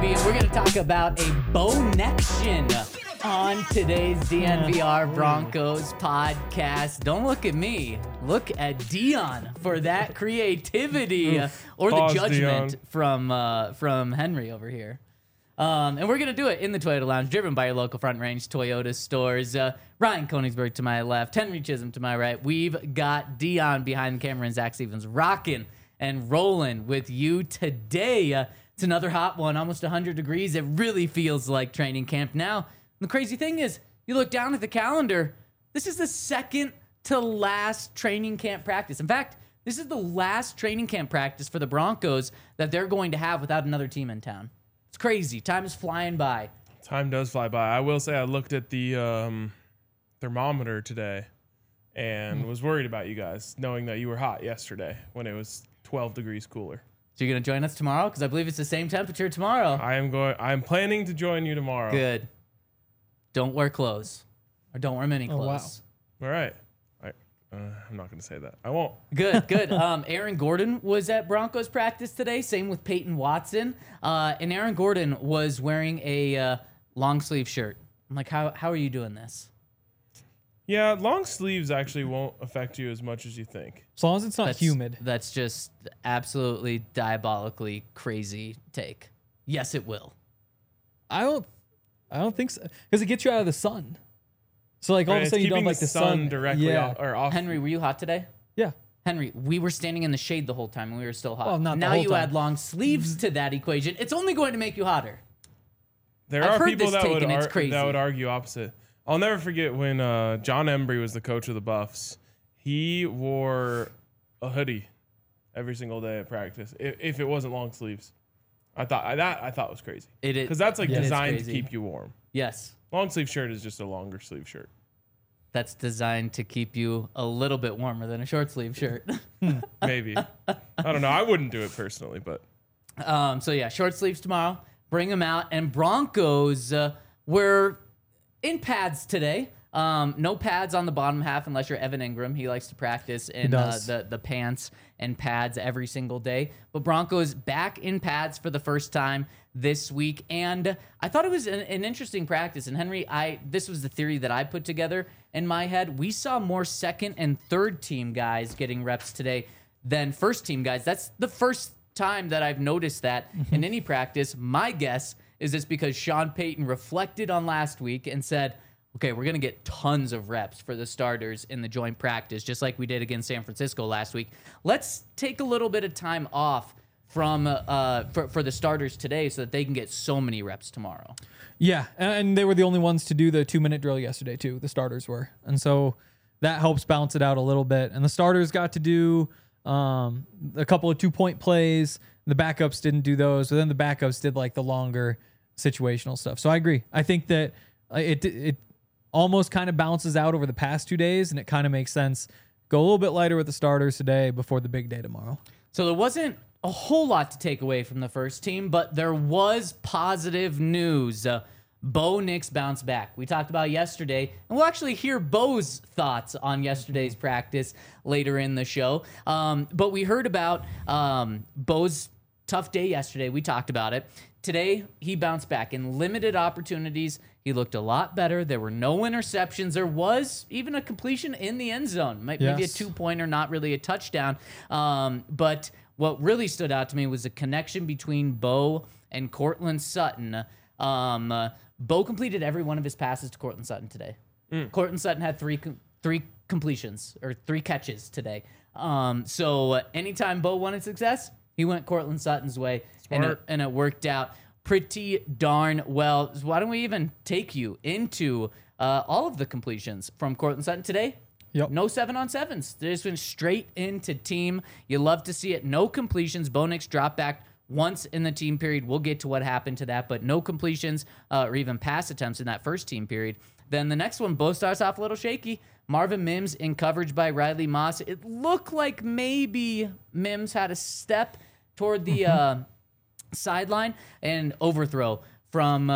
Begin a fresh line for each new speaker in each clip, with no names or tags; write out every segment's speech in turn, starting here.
and we're going to talk about a Bo-nection on today's DNVR Broncos podcast. Don't look at me. Look at Dion for that creativity or the judgment from Henry over here. And we're going to do it in the Toyota Lounge, driven by your local Front Range Toyota stores. Ryan Koenigsberg to my left, Henry Chisholm to my right. We've got Dion behind the camera and Zach Stevens rocking and rolling with you today. It's another hot one, almost 100 degrees. It really feels like training camp now. The crazy thing is, you look down at the calendar, this is the second to last training camp practice. In fact, this is the last training camp practice for the Broncos that they're going to have without another team in town. It's crazy. Time is flying by.
Time does fly by. I will say I looked at the thermometer today and was worried about you guys, knowing that you were hot yesterday when it was 12 degrees cooler.
So you're going to join us tomorrow? Because I believe it's the same temperature tomorrow.
I'm planning to join you tomorrow.
Good. Don't wear clothes. Or don't wear mini clothes.
Wow. All right. I'm not going to say that. I won't.
Good. Aaron Gordon was at Broncos practice today. Same with Peyton Watson. And Aaron Gordon was wearing a long sleeve shirt. I'm like, how are you doing this?
Yeah, long sleeves actually won't affect you as much as you think.
As long as it's not humid.
That's just absolutely diabolically crazy take. Yes, it will.
I don't think so. Because it gets you out of the sun. So like all of a sudden you don't like the sun
directly off.
Henry, were you hot today?
Yeah.
Henry, we were standing in the shade the whole time and we were still hot.
Well, not the
now
whole
you
time.
add long sleeves to that equation. It's only going to make you hotter.
There
I've
are
heard
people
this take and it's crazy.
that would argue opposite. I'll never forget when John Embry was the coach of the Buffs. He wore a hoodie every single day at practice if it wasn't long sleeves. I thought was crazy.
It is
because that's like designed to keep you warm.
Yes.
Long sleeve shirt is just a longer sleeve shirt.
That's designed to keep you a little bit warmer than a short sleeve shirt.
Maybe. I don't know. I wouldn't do it personally, but.
So yeah, short sleeves tomorrow. Bring them out. And Broncos were in pads today. No pads on the bottom half unless you're Evan Ingram. He likes to practice in the pants and pads every single day. But Broncos back in pads for the first time this week. And I thought it was an interesting practice. And Henry, this was the theory that I put together in my head. We saw more second and third team guys getting reps today than first team guys. That's the first time that I've noticed that in any practice. My guess is it's because Sean Payton reflected on last week and said, okay, we're going to get tons of reps for the starters in the joint practice, just like we did against San Francisco last week. Let's take a little bit of time off from for the starters today so that they can get so many reps tomorrow.
Yeah, and they were the only ones to do the 2-minute drill yesterday too. The starters were. And so that helps balance it out a little bit. And the starters got to do a couple of 2-point plays. The backups didn't do those, but then the backups did like the longer situational stuff. So I agree. I think that it almost kind of balances out over the past 2 days, and it kind of makes sense. Go a little bit lighter with the starters today before the big day tomorrow.
So there wasn't a whole lot to take away from the first team, but there was positive news. Bo Nix bounced back. We talked about yesterday, and we'll actually hear Bo's thoughts on yesterday's practice later in the show. But we heard about Bo's tough day yesterday. We talked about it. Today, he bounced back in limited opportunities. He looked a lot better. There were no interceptions. There was even a completion in the end zone. Maybe a 2-pointer, not really a touchdown. But what really stood out to me was the connection between Bo and Courtland Sutton. Bo completed every one of his passes to Courtland Sutton today. Courtland Sutton had three completions or 3 catches today. So anytime Bo wanted success, he went Courtland Sutton's way, and it worked out pretty darn well. So why don't we even take you into all of the completions from Courtland Sutton today?
Yep.
No 7-on-7s. They just went straight into team. You love to see it. No completions. Bo Nix dropped back once in the team period. We'll get to what happened to that, but no completions or even pass attempts in that first team period. Then the next one, Bo starts off a little shaky. Marvin Mims in coverage by Riley Moss. It looked like maybe Mims had a step toward the sideline, and overthrow from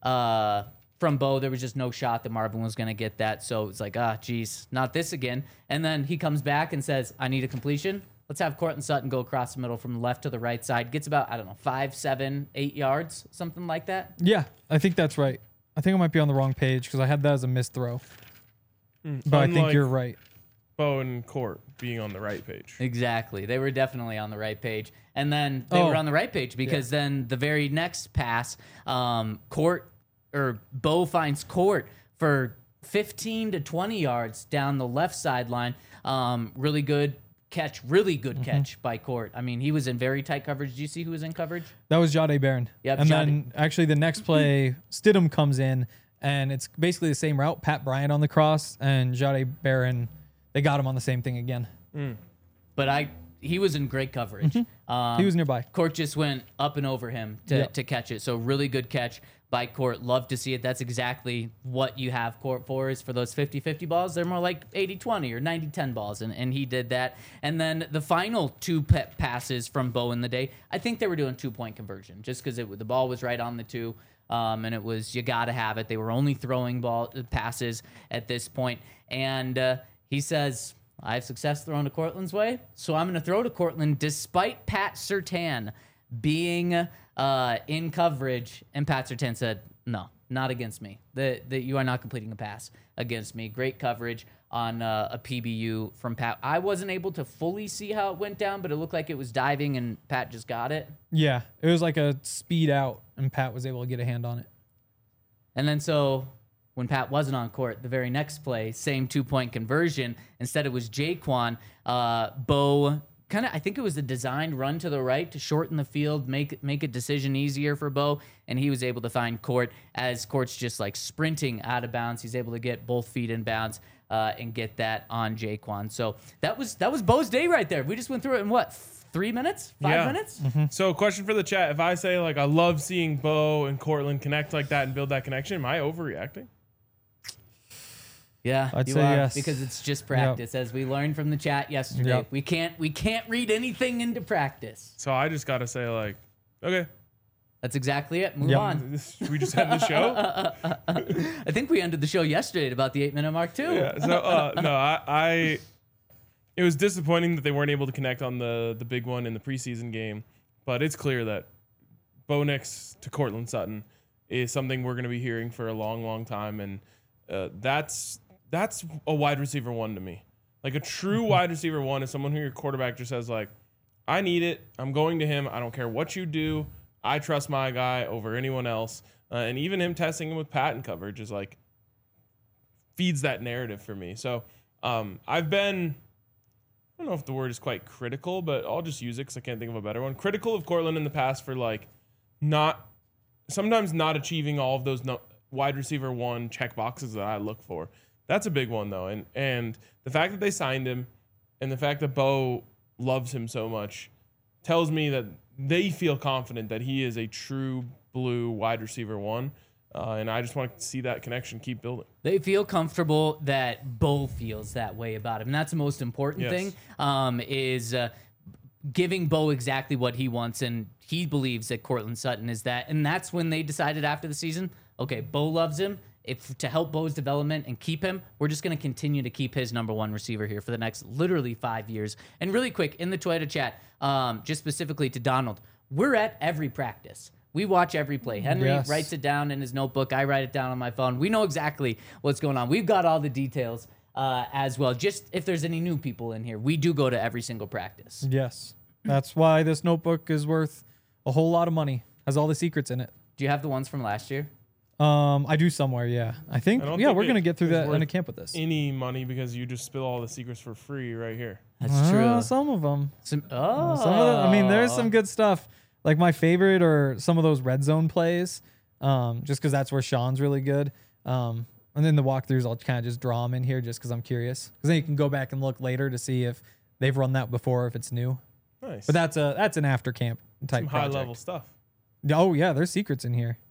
Bo. There was just no shot that Marvin was going to get that. So it's like, geez, not this again. And then he comes back and says, I need a completion. let's have Cortland Sutton go across the middle from the left to the right side. Gets about, I don't know, 5, 7, 8 yards, something like that.
Yeah, I think that's right. I think I might be on the wrong page because I had that as a missed throw. But I think
Unlike
you're right.
Bo and Court being on the right page.
Exactly. They were definitely on the right page. And then they were on the right page because then the very next pass, Bo finds Court for 15 to 20 yards down the left sideline. Really good catch by Court. I mean, he was in very tight coverage. Do you see who was in coverage?
That was Jade Barron.
Yep,
and
Jade.
then actually the next play, Stidham comes in, and it's basically the same route. Pat Bryant on the cross, and Jade Barron, they got him on the same thing again.
But he was in great coverage.
He was nearby.
Court just went up and over him to catch it. So really good catch by Court. Love to see it. That's exactly what you have Court for, is for those 50-50 balls. They're more like 80-20 or 90-10 balls, and he did that. And then the final two passes from Bo in the day, I think they were doing 2-point conversion just because the ball was right on the 2, and it was, you got to have it. They were only throwing passes at this point. And he says, I have success throwing to Cortland's way, so I'm going to throw to Cortland despite Pat Surtain being in coverage. And Pat Surtain said, no, not against me. That you are not completing a pass against me. Great coverage on a PBU from Pat. I wasn't able to fully see how it went down, but it looked like it was diving and Pat just got it.
Yeah, it was like a speed out, and Pat was able to get a hand on it.
And then so when Pat wasn't on court, the very next play, same 2-point conversion. Instead, it was Jaquan. Bo I think it was a designed run to the right to shorten the field, make a decision easier for Bo, and he was able to find Court as Court's just like sprinting out of bounds. He's able to get both feet in bounds and get that on Jaquan. So that was Bo's day right there. We just went through it in what, 3 minutes, 5 minutes?
So question for the chat. If I say like I love seeing Bo and Cortland connect like that and build that connection, am I overreacting?
Yeah,
I'd
you
say
are,
yes.
because it's just practice, as we learned from the chat yesterday.
Yep.
We can't read anything into practice.
So I just gotta say like, okay,
That's exactly it. Move on.
should we just end the show?
I think we ended the show yesterday at about the 8-minute mark too.
Yeah. So no, I it was disappointing that they weren't able to connect on the big one in the preseason game, but it's clear that Bo Nix to Cortland Sutton is something we're going to be hearing for a long, long time, and that's a wide receiver one to me. Like a true wide receiver one is someone who your quarterback just says like, I need it. I'm going to him. I don't care what you do. I trust my guy over anyone else. And even him testing him with patent coverage is like feeds that narrative for me. So I've been, I don't know if the word is quite critical, but I'll just use it because I can't think of a better one. Critical of Cortland in the past for like sometimes not achieving all of those wide receiver one check boxes that I look for. That's a big one though. And the fact that they signed him and the fact that Bo loves him so much tells me that they feel confident that he is a true blue wide receiver one. And I just want to see that connection keep building.
They feel comfortable that Bo feels that way about him. And that's the most important thing, is giving Bo exactly what he wants. And he believes that Cortland Sutton is that. And that's when they decided after the season, okay, Bo loves him. If to help Bo's development and keep him, we're just going to continue to keep his number one receiver here for the next literally 5 years. And really quick, in the Twitter chat, just specifically to Donald, we're at every practice. We watch every play. Henry writes it down in his notebook. I write it down on my phone. We know exactly what's going on. We've got all the details as well. Just if there's any new people in here, we do go to every single practice.
Yes. That's why this notebook is worth a whole lot of money. Has all the secrets in it.
Do you have the ones from last year?
I do somewhere, yeah. I think, we're going to get through that in a camp with this.
Any money because you just spill all the secrets for free right here.
That's true.
Some of them.
Some of
them. I mean, there's some good stuff. Like my favorite are some of those red zone plays, just because that's where Sean's really good. And then the walkthroughs, I'll kind of just draw them in here just because I'm curious. Because then you can go back and look later to see if they've run that before, if it's new.
Nice.
But that's an after camp type
some
project.
high level stuff.
Oh yeah, there's secrets in here.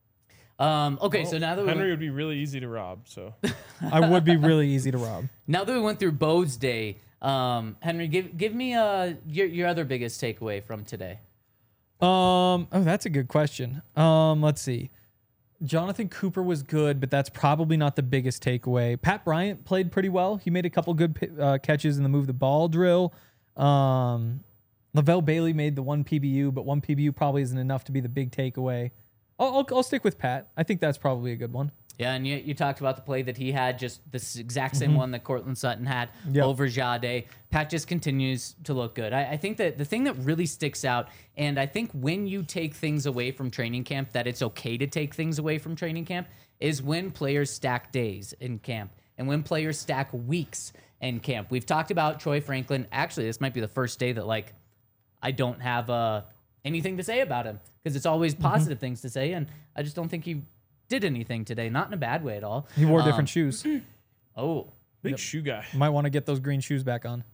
Okay, so now that
Henry would be really easy to rob. So
I would be really easy to rob.
Now that we went through Bo's day, Henry, give me your other biggest takeaway from today.
Oh, that's a good question. Let's see. Jonathan Cooper was good, but that's probably not the biggest takeaway. Pat Bryant played pretty well. He made a couple good catches in the move the ball drill. Lavelle Bailey made the one PBU, but one PBU probably isn't enough to be the big takeaway. I'll stick with Pat. I think that's probably a good one.
Yeah, and you talked about the play that he had, just this exact same one that Cortland Sutton had
Yep.
over Jade. Pat just continues to look good. I think that the thing that really sticks out, and I think when you take things away from training camp, that it's okay to take things away from training camp, is when players stack days in camp and when players stack weeks in camp. We've talked about Troy Franklin. Actually, this might be the first day that, like, I don't have anything to say about him because it's always positive things to say, and I just don't think he did anything today, not in a bad way at all.
He wore different shoes.
Oh,
Big shoe guy.
Might want to get those green shoes back on.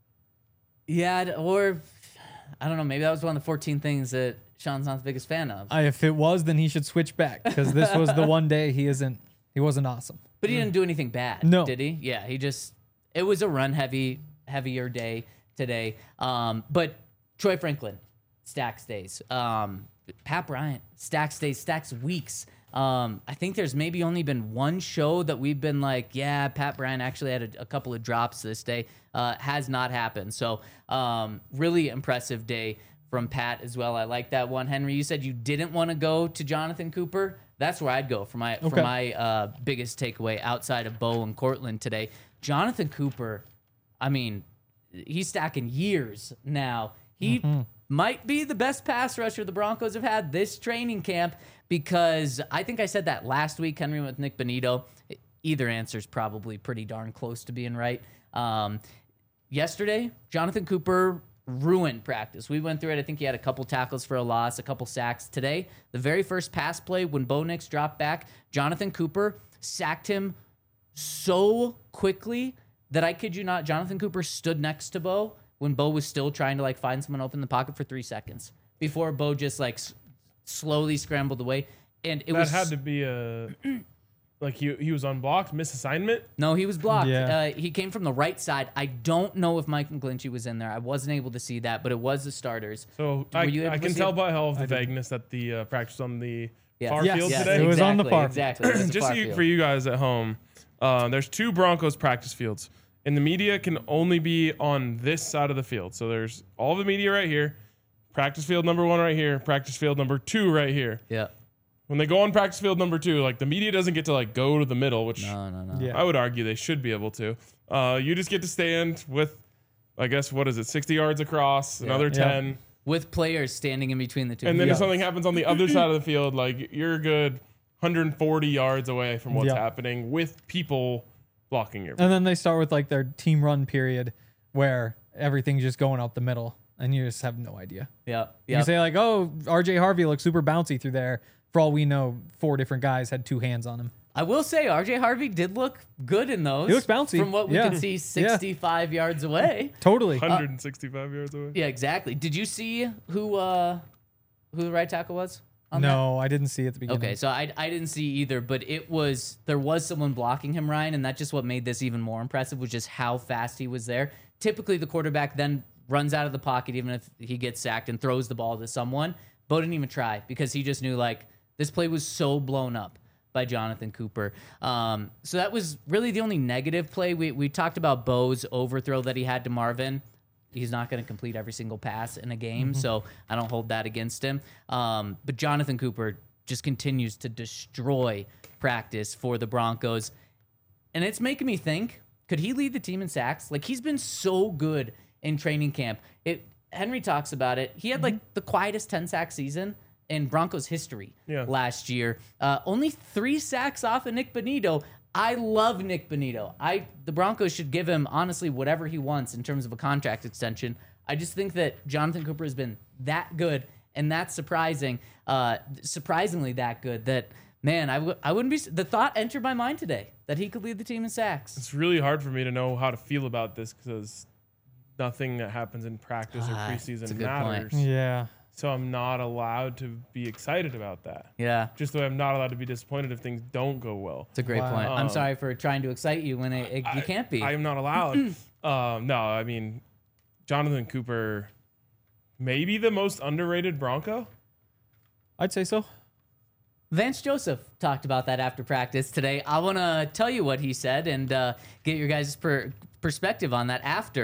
yeah, or I don't know. Maybe that was one of the 14 things that Sean's not the biggest fan of.
If it was, then he should switch back because this was the one day he wasn't awesome.
But he didn't do anything bad,
No.
did he? Yeah, it was a heavier day today. But Troy Franklin, stacks days. Pat Bryant, stacks days, stacks weeks. I think there's maybe only been one show that we've been like, yeah, Pat Bryant actually had a couple of drops this day. Has not happened. So really impressive day from Pat as well. I like that one. Henry, you said you didn't want to go to Jonathan Cooper. That's where I'd go for my biggest takeaway outside of Bo and Cortland today. Jonathan Cooper, I mean, he's stacking years now. He might be the best pass rusher the Broncos have had this training camp because I think I said that last week, Henry, with Nick Bonito. Either answer's probably pretty darn close to being right. Yesterday, Jonathan Cooper ruined practice. We went through it. I think he had a couple tackles for a loss, a couple sacks. Today, the very first pass play when Bo Nix dropped back, Jonathan Cooper sacked him so quickly that I kid you not, Jonathan Cooper stood next to Bo when Bo was still trying to like find someone open in the pocket for 3 seconds before Bo just like slowly scrambled away. And it
That
was
had to be like he was unblocked, misassignment.
no, he was blocked.
Yeah.
He came from the right side. I don't know if Mike McGlinchey was in there. I wasn't able to see that, but it was the starters.
So
Were you able
I
to
can
see
tell
it?
by all of the vagueness that the practice on the
Yes.
far
Yes.
field
Yes.
today.
It was on the far.
Exactly. It was the
Just
far
so
field.
for you guys at home, there's 2 Broncos practice fields, and the media can only be on this side of the field. So there's all the media right here, practice field number 1 right here, practice field number 2 right here.
Yeah.
When they go on practice field number 2, like the media doesn't get to like go to the middle, which
No.
Yeah.
I would argue they should be able to. You just get to stand with, I guess, what is it, 60 yards across, another
Yeah.
10.
With players standing in between the two.
And then
Yeah.
if something happens on the other side of the field, like you're a good 140 yards away from what's
Yeah.
happening with people blocking your.
And then they start with like their team run period where everything's just going out the middle and you just have no idea.
Yeah.
You
Yeah.
can say like, oh, RJ Harvey looks super bouncy through there. For all we know, 4 different guys had 2 hands on him.
I will say RJ Harvey did look good in those.
He looks bouncy.
From what we
Yeah.
could see 65 yards away.
Totally.
165 yards away.
Yeah, exactly. Did you see who the right tackle was? On
No, I didn't see it at the
that?
beginning.
Okay, so I didn't see either, but there was someone blocking him, Ryan, and that's just what made this even more impressive, was just how fast he was there. Typically, the quarterback then runs out of the pocket, even if he gets sacked, and throws the ball to someone. Bo didn't even try because he just knew, like, this play was so blown up by Jonathan Cooper. So that was really the only negative play. We talked about Bo's overthrow that he had to Marvin. He's not going to complete every single pass in a game, so I don't hold that against him. But Jonathan Cooper just continues to destroy practice for the Broncos. And it's making me think, could he lead the team in sacks? Like, he's been so good in training camp. Henry talks about it. He had, like, the quietest 10-sack season in Broncos history last year. Only 3 sacks off of Nick Bonito. I love Nick Bonito. The Broncos should give him, honestly, whatever he wants in terms of a contract extension. I just think that Jonathan Cooper has been that good and that's surprisingly that good that, man, I wouldn't be. The thought entered my mind today that he could lead the team in sacks.
It's really hard for me to know how to feel about this because nothing that happens in practice or
that's a
preseason
good
matters.
point.
Yeah.
So I'm not allowed to be excited about that.
Yeah.
Just the way I'm not allowed to be disappointed if things don't go well.
It's a great
Wow.
point. I'm sorry for trying to excite you when you can't be.
I am not allowed. No, I mean, Jonathan Cooper, maybe the most underrated Bronco.
I'd say so.
Vance Joseph talked about that after practice today. I want to tell you what he said and get your guys' perspective on that after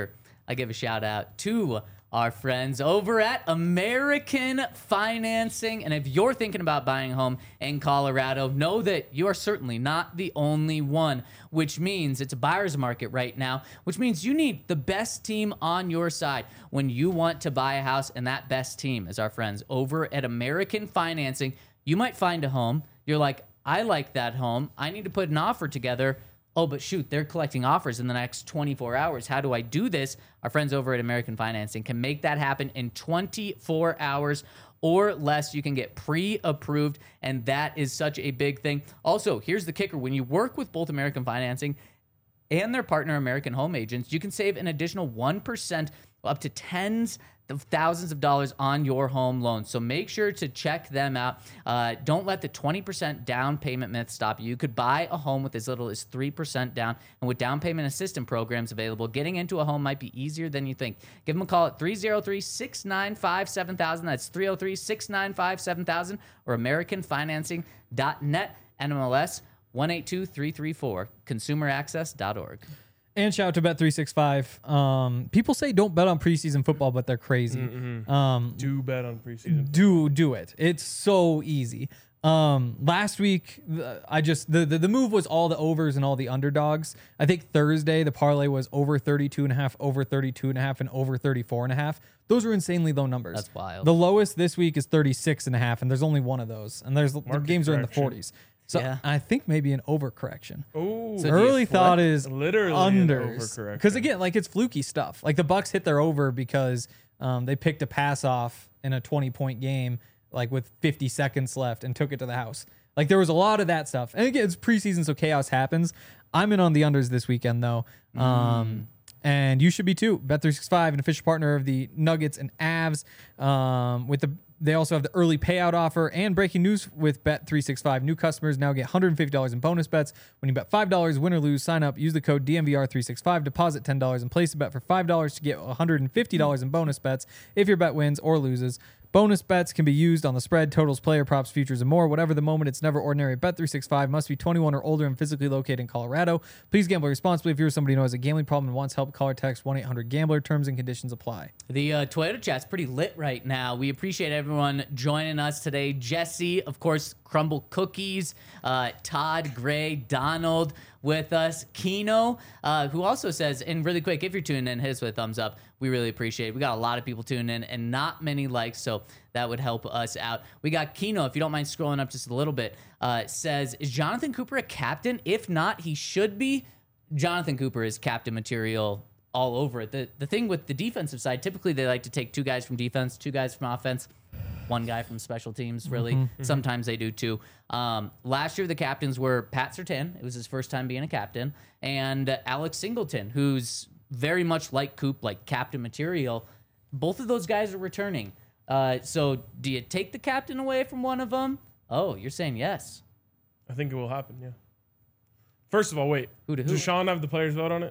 I give a shout out to our friends over at American Financing. And if you're thinking about buying a home in Colorado, know that you are certainly not the only one, which means it's a buyer's market right now, which means you need the best team on your side when you want to buy a house. And that best team is our friends over at American Financing. You might find a home. You're like, I like that home. I need to put an offer together. Oh, but shoot, they're collecting offers in the next 24 hours. How do I do this? Our friends over at American Financing can make that happen in 24 hours or less. You can get pre-approved, and that is such a big thing. Also, here's the kicker. When you work with both American Financing and their partner, American Home Agents, you can save an additional 1% up to tens of thousands of dollars on your home loan. So make sure to check them out. Don't let the 20% down payment myth stop you. You could buy a home with as little as 3% down. And with down payment assistance programs available, getting into a home might be easier than you think. Give them a call at 303-695-7000. That's 303-695-7000 or AmericanFinancing.net. NMLS 182334. ConsumerAccess.org.
And shout out to Bet365. People say don't bet on preseason football, but they're crazy.
Do bet on preseason.
Do it. It's so easy. Last week, the move was all the overs and all the underdogs. I think Thursday the parlay was over 32.5, over 32.5, and over 34.5. Those are insanely low numbers.
That's wild.
The lowest this week is 36.5, and there's only one of those. And the games are in the 40s. So
Yeah.
I think maybe an overcorrection.
Oh,
So
Early
you
thought is
literally
unders.
overcorrection.
Because again, like it's fluky stuff. Like the Bucks hit their over because they picked a pass off in a 20-point game, like with 50 seconds left, and took it to the house. Like there was a lot of that stuff. And again, it's preseason, so chaos happens. I'm in on the unders this weekend though. And you should be too. Bet365, an official partner of the Nuggets and Avs. They also have the early payout offer and breaking news with Bet365. New customers now get $150 in bonus bets. When you bet $5, win or lose, sign up, use the code DMVR365, deposit $10, and place a bet for $5 to get $150 in bonus bets if your bet wins or loses. Bonus bets can be used on the spread, totals, player props, futures, and more. Whatever the moment, it's never ordinary. Bet365 must be 21 or older and physically located in Colorado. Please gamble responsibly. If you're somebody who has a gambling problem and wants help, call or text 1-800-GAMBLER. Terms and conditions apply.
The Toyota chat's pretty lit right now. We appreciate everyone joining us today. Jesse, of course, Crumble Cookies, Todd, Gray, Donald with us, Keno, who also says, and really quick, if you're tuning in, hit us with a thumbs up. We really appreciate it. We got a lot of people tuning in and not many likes, so that would help us out. We got Keno, if you don't mind scrolling up just a little bit, says, is Jonathan Cooper a captain? If not, he should be. Jonathan Cooper is captain material all over it. The thing with the defensive side, typically they like to take 2 guys from defense, 2 guys from offense, 1 guy from special teams, really. Sometimes they do 2. Last year, the captains were Pat Surtain. It was his first time being a captain. And Alex Singleton, who's very much like Coop, like captain material. Both of those guys are returning. So do you take the captain away from one of them? Oh, you're saying yes.
I think it will happen, yeah. First of all, wait.
Who to who?
Does Sean have the players vote on it?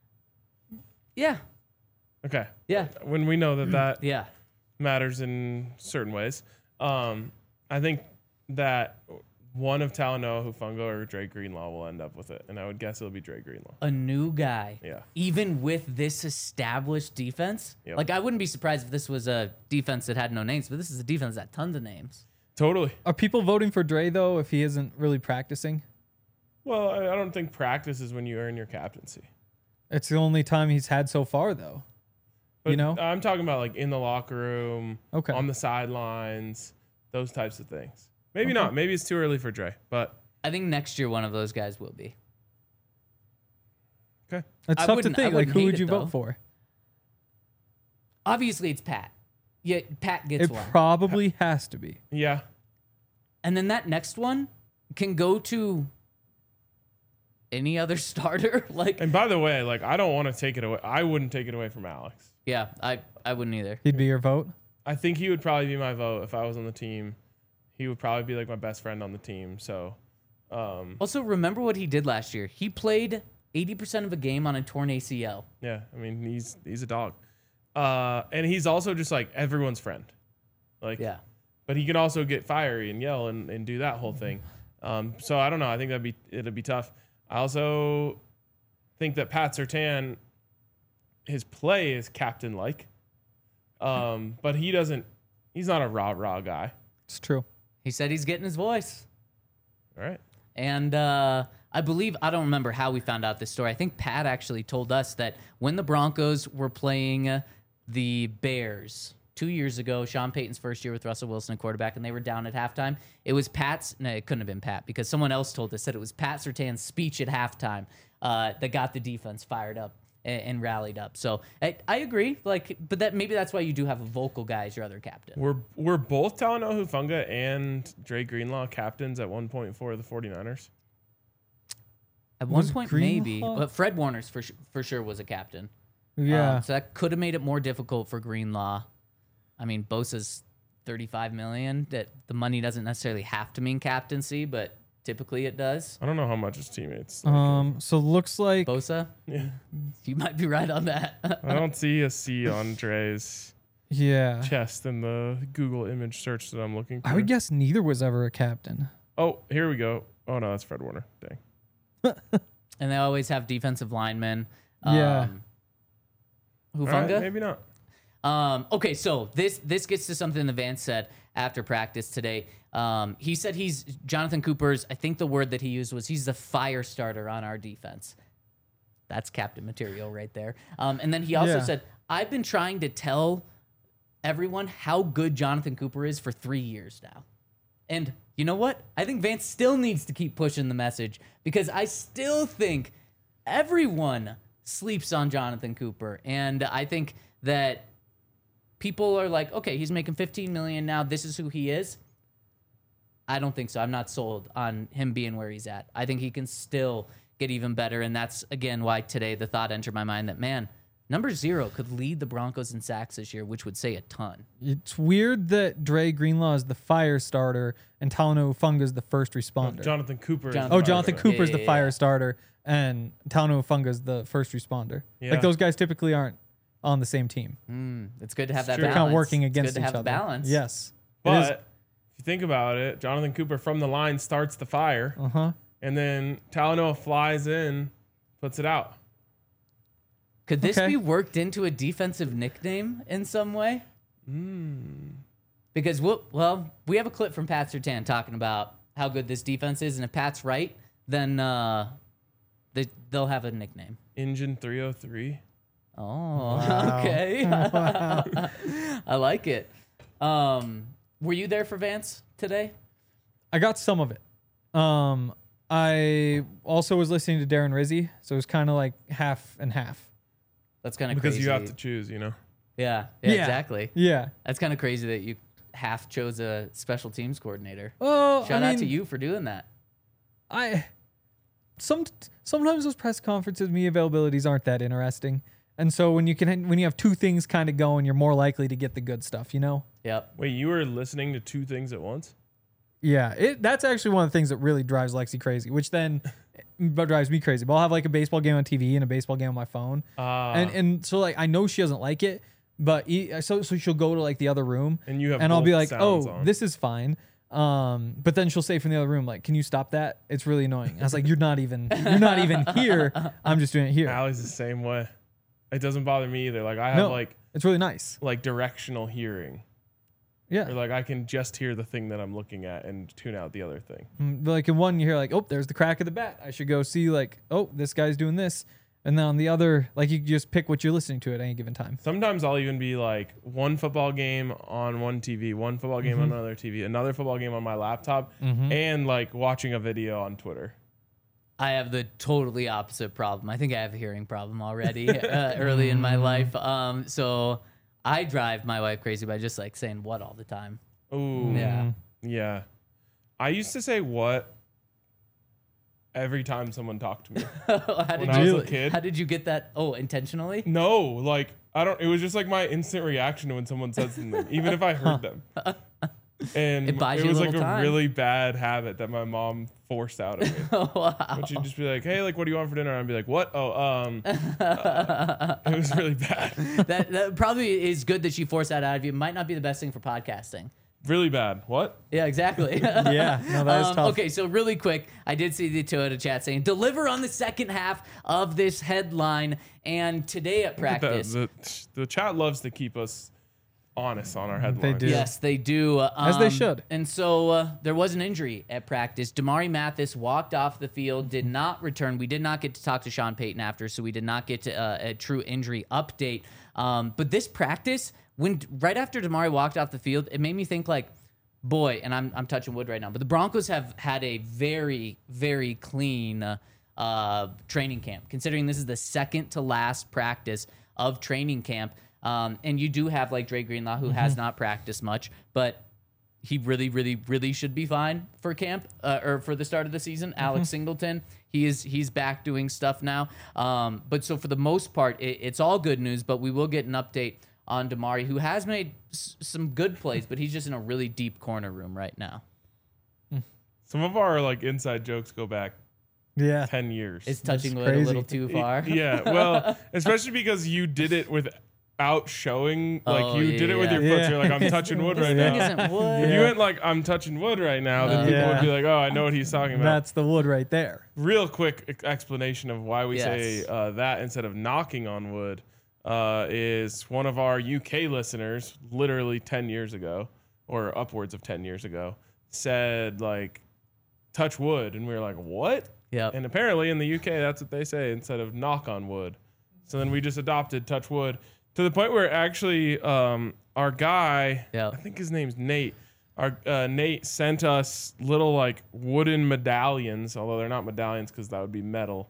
Yeah.
Okay.
Yeah.
When we know that
Yeah.
matters in certain ways. I think that one of Talanoa Hufanga or Dre Greenlaw will end up with it, and I would guess it'll be Dre Greenlaw.
A new guy.
Yeah.
Even with this established defense.
Yep.
Like, I wouldn't be surprised if this was a defense that had no names, but this is a defense that had tons of names.
Totally.
Are people voting for Dre, though, if he isn't really practicing?
Well, I don't think practice is when you earn your captaincy.
It's the only time he's had so far, though.
But
You know?
I'm talking about like in the locker room,
Okay.
on the sidelines, those types of things. Maybe not. Maybe it's too early for Dre, but
I think next year one of those guys will be.
okay.
It's
I
tough to
wouldn't- I
think. Like,
wouldn't
who
hate
would
it,
you
though.
vote for?
Obviously, it's Pat. Yeah, Pat gets
It
one.
probably has to be.
Yeah.
And then that next one can go to any other starter. Like,
And by the way, like I don't want to take it away. I wouldn't take it away from Alex.
yeah, I wouldn't either.
He'd be your vote.
I think he would probably be my vote if I was on the team. He would probably be like my best friend on the team. So,
Also, remember what he did last year. He played 80% of a game on a torn ACL.
yeah, I mean he's a dog, and he's also just like everyone's friend. Like,
Yeah.
but he can also get fiery and yell and do that whole thing. So I don't know. I think it'd be tough. I also think that Pat Surtain his play is captain like. But he's not a rah guy.
It's true.
He said he's getting his voice.
All right.
And I believe, I don't remember how we found out this story. I think Pat actually told us that when the Broncos were playing the Bears 2 years ago, Sean Payton's first year with Russell Wilson at quarterback, and they were down at halftime, it was no, it couldn't have been Pat, because someone else told us that it was Pat Surtain's speech at halftime that got the defense fired up and rallied up. So I agree, but maybe that's why you do have a vocal guy as your other captain.
Were both Talanoa Hufanga and Dre Greenlaw captains at one point for the 49ers?
At one
Was
point,
Greenlaw?
maybe, but Fred Warner's for sure was a captain.
Yeah.
So that could have made it more difficult for Greenlaw. I mean, Bosa's $35 million. That the money doesn't necessarily have to mean captaincy, but typically it does.
I don't know how much his teammates.
So looks like
Bosa,
Yeah.
you might be right on that.
I don't see a C on Dre's
yeah.
chest in the Google image search that I'm looking for.
I would guess neither was ever a captain.
Oh, here we go. Oh no, that's Fred Warner. Dang.
And they always have defensive linemen.
Yeah.
All right,
Hufanga?
maybe not.
Okay, so this gets to something that Vance said after practice today. He said he's Jonathan Cooper's, I think the word that he used was he's the fire starter on our defense. That's captain material right there. And then he also
Yeah.
said, I've been trying to tell everyone how good Jonathan Cooper is for 3 years now. And you know what? I think Vance still needs to keep pushing the message, because I still think everyone sleeps on Jonathan Cooper. And I think that people are like, okay, he's making $15 million now. This is who he is. I don't think so. I'm not sold on him being where he's at. I think he can still get even better. And that's, again, why today the thought entered my mind that, man, number 0 could lead the Broncos in sacks this year, which would say a ton.
It's weird that Dre Greenlaw is the fire starter and Talanoa Hufanga is the first responder.
Jonathan Cooper.
Jonathan Cooper's the
yeah,
fire
yeah.
starter and Talanoa Hufanga is the first responder.
Yeah.
Like those guys typically aren't on the same team.
It's good to have that
true.
They're
balance.
kind of working
It's
against
good to
each
have
other.
the balance.
Yes.
But
It
if you think about it, Jonathan Cooper from the line starts the fire,
Uh-huh.
and then Talanoa flies in, puts it out.
Could this
Okay.
be worked into a defensive nickname in some way? Because we have a clip from Pat Surtain talking about how good this defense is, and if Pat's right, then they'll have a nickname.
Engine 303.
Oh,
Wow.
okay. I like it. Were you there for Vance today?
I got some of it. I also was listening to Darren Rizzi, so it was kind of like half and half.
That's kind of
Because
crazy.
you have to choose,
Yeah,
Yeah.
exactly.
Yeah.
That's kind of crazy that you half chose a special teams coordinator.
Oh,
Shout out to you for doing that.
Sometimes those press conferences, media availabilities aren't that interesting, and so when you have two things kind of going, you're more likely to get the good stuff, you know.
Yep.
Wait, you were listening to 2 things at once?
Yeah, that's actually one of the things that really drives Lexi crazy, which then drives me crazy. But I'll have like a baseball game on TV and a baseball game on my phone, and so like I know she doesn't like it, but so she'll go to like the other room,
And you have
and I'll be
both
like,
sounds
oh,
on.
this is fine. But then she'll say from the other room, like, can you stop that? It's really annoying. I was like, you're not even here. I'm just doing it here.
Allie's the same way. It doesn't bother me either. Like I have
No, it's really nice.
like directional hearing.
Yeah.
Or like I can just hear the thing that I'm looking at and tune out the other thing.
But like in one, you hear like, oh, there's the crack of the bat. I should go see like, oh, this guy's doing this. And then on the other, like you just pick what you're listening to at any given time.
Sometimes I'll even be like one football game on one TV, one football game on another TV, another football game on my laptop, and like watching a video on Twitter.
I have the totally opposite problem. I think I have a hearing problem already early in my life. So I drive my wife crazy by just like saying what all the time.
Ooh.
Yeah.
Yeah. I used to say what every time someone talked to me.
How
When I was a kid.
How did you get that? Oh, intentionally?
No, like it was just like my instant reaction when someone said something, even if I heard them. And
It buys
it
you a
was like
little
a
time.
really bad habit that my mom forced out of me.
Oh, wow.
But she'd just be like, "Hey, like, what do you want for dinner?" And I'd be like, "What? Oh, it was really bad."
That probably is good that she forced that out of you. Might not be the best thing for podcasting
really bad. What?
Yeah, exactly.
Yeah, no, that is tough.
Okay, so really quick, I did see the Toyota chat saying, deliver on the second half of this headline. And today at practice.
The chat loves to keep us honest on our headlines.
do.
Yes, they do.
As they should.
And so there was an injury at practice. Damari Mathis walked off the field, did not return. We did not get to talk to Sean Payton after, so we did not get to a true injury update. But this practice, right after Damari walked off the field, it made me think like, boy, and I'm touching wood right now, but the Broncos have had a very, very clean training camp, considering this is the second to last practice of training camp. And you do have like Dre Greenlaw, who has not practiced much, but he really, really, really should be fine for camp or for the start of the season. Alex Singleton, he's back doing stuff now. But so for the most part, it's all good news. But we will get an update on Damari, who has made some good plays, but he's just in a really deep corner room right now.
Some of our like inside jokes go back 10 years.
It's touching wood a
crazy.
little too far.
Yeah, well, especially because you did it without showing, like you did it with your foot.
Yeah.
So you're like, I'm touching wood right
Thing
now.
isn't wood.
If you went like, I'm touching wood right now, then people would be like, oh, I know what he's talking about.
That's the wood right there.
Real quick explanation of why we say
Yes.
that instead of knocking on wood is one of our UK listeners, literally 10 years ago, or upwards of 10 years ago, said like, touch wood. And we were like, what?
Yep.
And apparently in the UK, that's what they say instead of knock on wood. So then we just adopted touch wood to the point where actually our guy,
Yep.
I think his name's Nate, Nate sent us little like wooden medallions, although they're not medallions because that would be metal,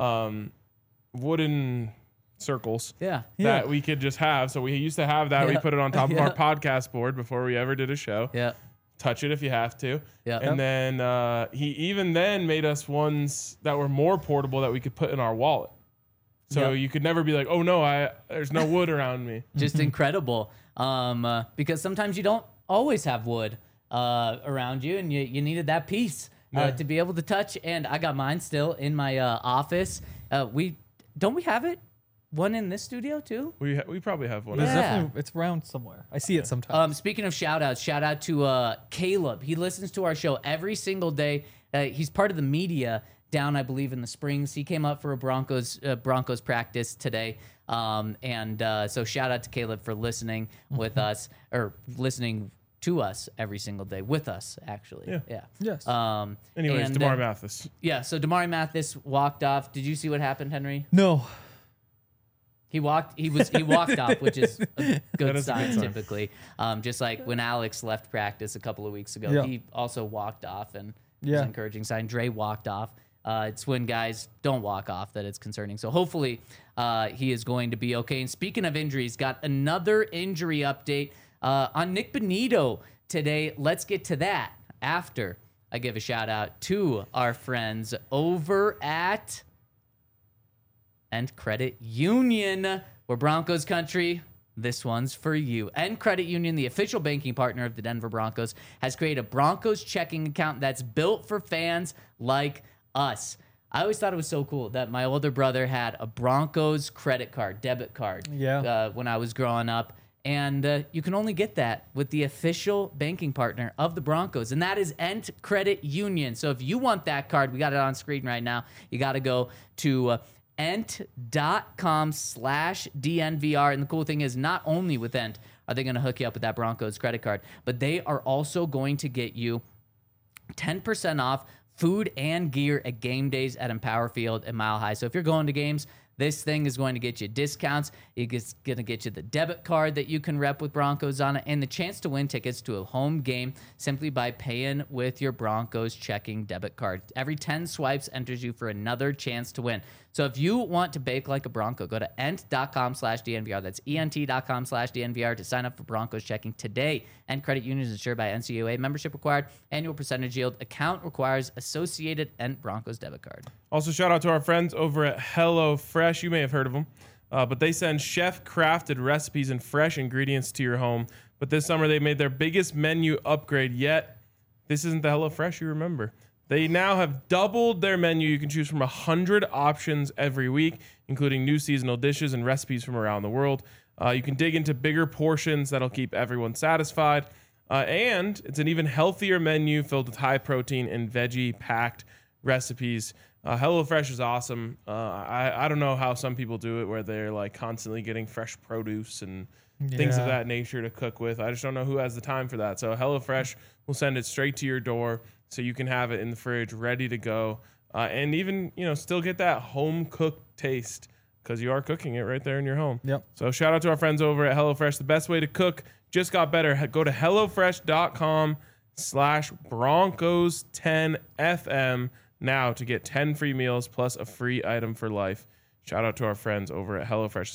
wooden circles
Yeah.
that we could just have. So we used to have that. We
Yeah.
put it on top of
Yeah.
our podcast board before we ever did a show.
Yeah.
Touch it if you have to.
Yeah.
And then he even then made us ones that were more portable that we could put in our wallet. So
Yep.
you could never be like, oh no, there's no wood around me.
Just incredible. Because sometimes you don't always have wood around you, and you needed that piece to be able to touch. And I got mine still in my office. We have it? One in this studio too?
We probably have one.
It's
Yeah.
definitely it's around somewhere. I see it sometimes.
Speaking of shout outs, shout out to Caleb. He listens to our show every single day. He's part of the media down, I believe, in the Springs. He came up for a Broncos practice today. So shout out to Caleb for listening with us, or listening to us every single day with us, actually. Yeah.
Yes.
Anyways,
and,
DeMar Mathis.
Yeah, so Damari Mathis walked off. Did you see what happened, Henry?
No.
He walked off, which is a good
is a
sign
good sign.
typically. Just like when Alex left practice a couple of weeks ago,
Yeah.
he also walked off, and it was
Yeah.
an encouraging sign. Dre walked off. It's when guys don't walk off that it's concerning. So hopefully he is going to be okay. And speaking of injuries, got another injury update on Nick Benito today. Let's get to that after I give a shout out to our friends over at End Credit Union. We're Broncos country. This one's for you. End Credit Union, the official banking partner of the Denver Broncos, has created a Broncos checking account that's built for fans like us. I always thought it was so cool that my older brother had a Broncos credit card, debit card, when I was growing up. And you can only get that with the official banking partner of the Broncos, and that is End Credit Union. So if you want that card, we got it on screen right now. You got to go to ent.com/DNVR. And the cool thing is, not only with Ent are they going to hook you up with that Broncos credit card, but they are also going to get you 10% off food and gear at game days at Empower Field and Mile High. So if you're going to games, this thing is going to get you discounts. It's going to get you the debit card that you can rep with Broncos on it, and the chance to win tickets to a home game simply by paying with your Broncos checking debit card. Every 10 swipes enters you for another chance to win. So if you want to bake like a Bronco, go to ent.com/DNVR. That's ent.com/DNVR to sign up for Broncos checking today. Ent Credit Union is insured by NCUA. Membership required. Annual percentage yield. Account requires associated Ent Broncos debit card.
Also, shout out to our friends over at HelloFresh. You may have heard of them, but they send chef-crafted recipes and fresh ingredients to your home. But this summer, they made their biggest menu upgrade yet. This isn't the HelloFresh you remember. They now have doubled their menu. You can choose from 100 options every week, including new seasonal dishes and recipes from around the world. You can dig into bigger portions that'll keep everyone satisfied. And it's an even healthier menu filled with high protein and veggie packed recipes. HelloFresh is awesome. I don't know how some people do it where they're like constantly getting fresh produce and things of
Yeah.
that nature to cook with. I just don't know who has the time for that. So HelloFresh will send it straight to your door so you can have it in the fridge ready to go. And even, still get that home cooked taste because you are cooking it right there in your home.
Yep.
So shout out to our friends over at HelloFresh. The best way to cook just got better. Go to HelloFresh.com/Broncos10FM now to get 10 free meals plus a free item for life. Shout out to our friends over at HelloFresh.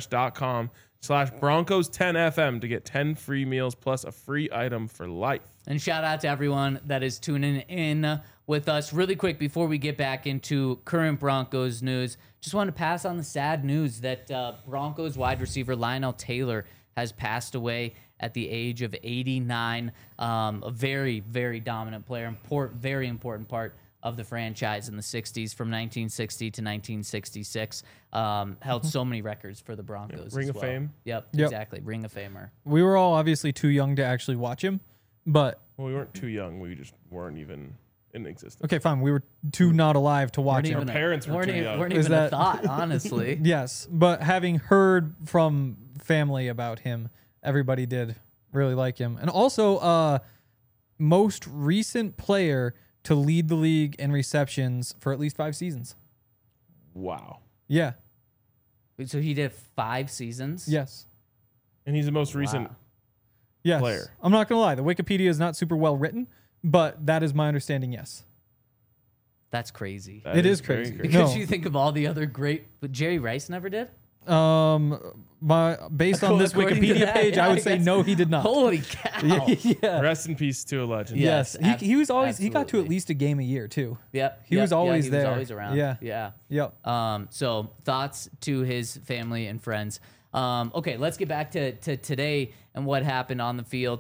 HelloFresh.com/Broncos10FM to get 10 free meals plus a free item for life.
And shout out to everyone that is tuning in with us. Really quick, before we get back into current Broncos news, just want to pass on the sad news that Broncos wide receiver Lionel Taylor has passed away at the age of 89. A very, very dominant player, very important part of the franchise in the 60s from 1960 to 1966. Held so many records for the Broncos.
Ring
as
of
well.
Fame.
Yep,
Yep.
exactly. Ring of Famer.
We were all obviously too young to actually watch him, but
Well, we weren't too young. We just weren't even in existence.
okay, fine. We were too not alive to watch him.
Our parents were
weren't
too
even,
young.
weren't
Is
even a
that-
thought, honestly.
Yes, but having heard from family about him, everybody did really like him. And also, most recent player to lead the league in receptions for at least 5 seasons.
Wow.
Yeah.
So he did 5 seasons?
Yes.
And he's the most recent.
Wow.
Yes.
Player.
I'm not going to lie. The Wikipedia is not super well written, but that is my understanding, yes.
That's crazy.
That
It is
very
crazy.
Because
No.
you think of all the other great, but Jerry Rice never did?
Based on this
According to
Wikipedia
that,
page,
yeah,
I
I
would say
guess.
no, he did not.
Holy cow.
Yeah.
Rest in peace to a legend.
Yeah.
Yes.
Yes,
He was always, he got to
absolutely.
at least a game a year, too.
Yep.
He was always
he
there.
was always around.
Yeah.
Yeah.
Yep.
So thoughts to his family and friends. Okay, let's get back to today and what happened on the field.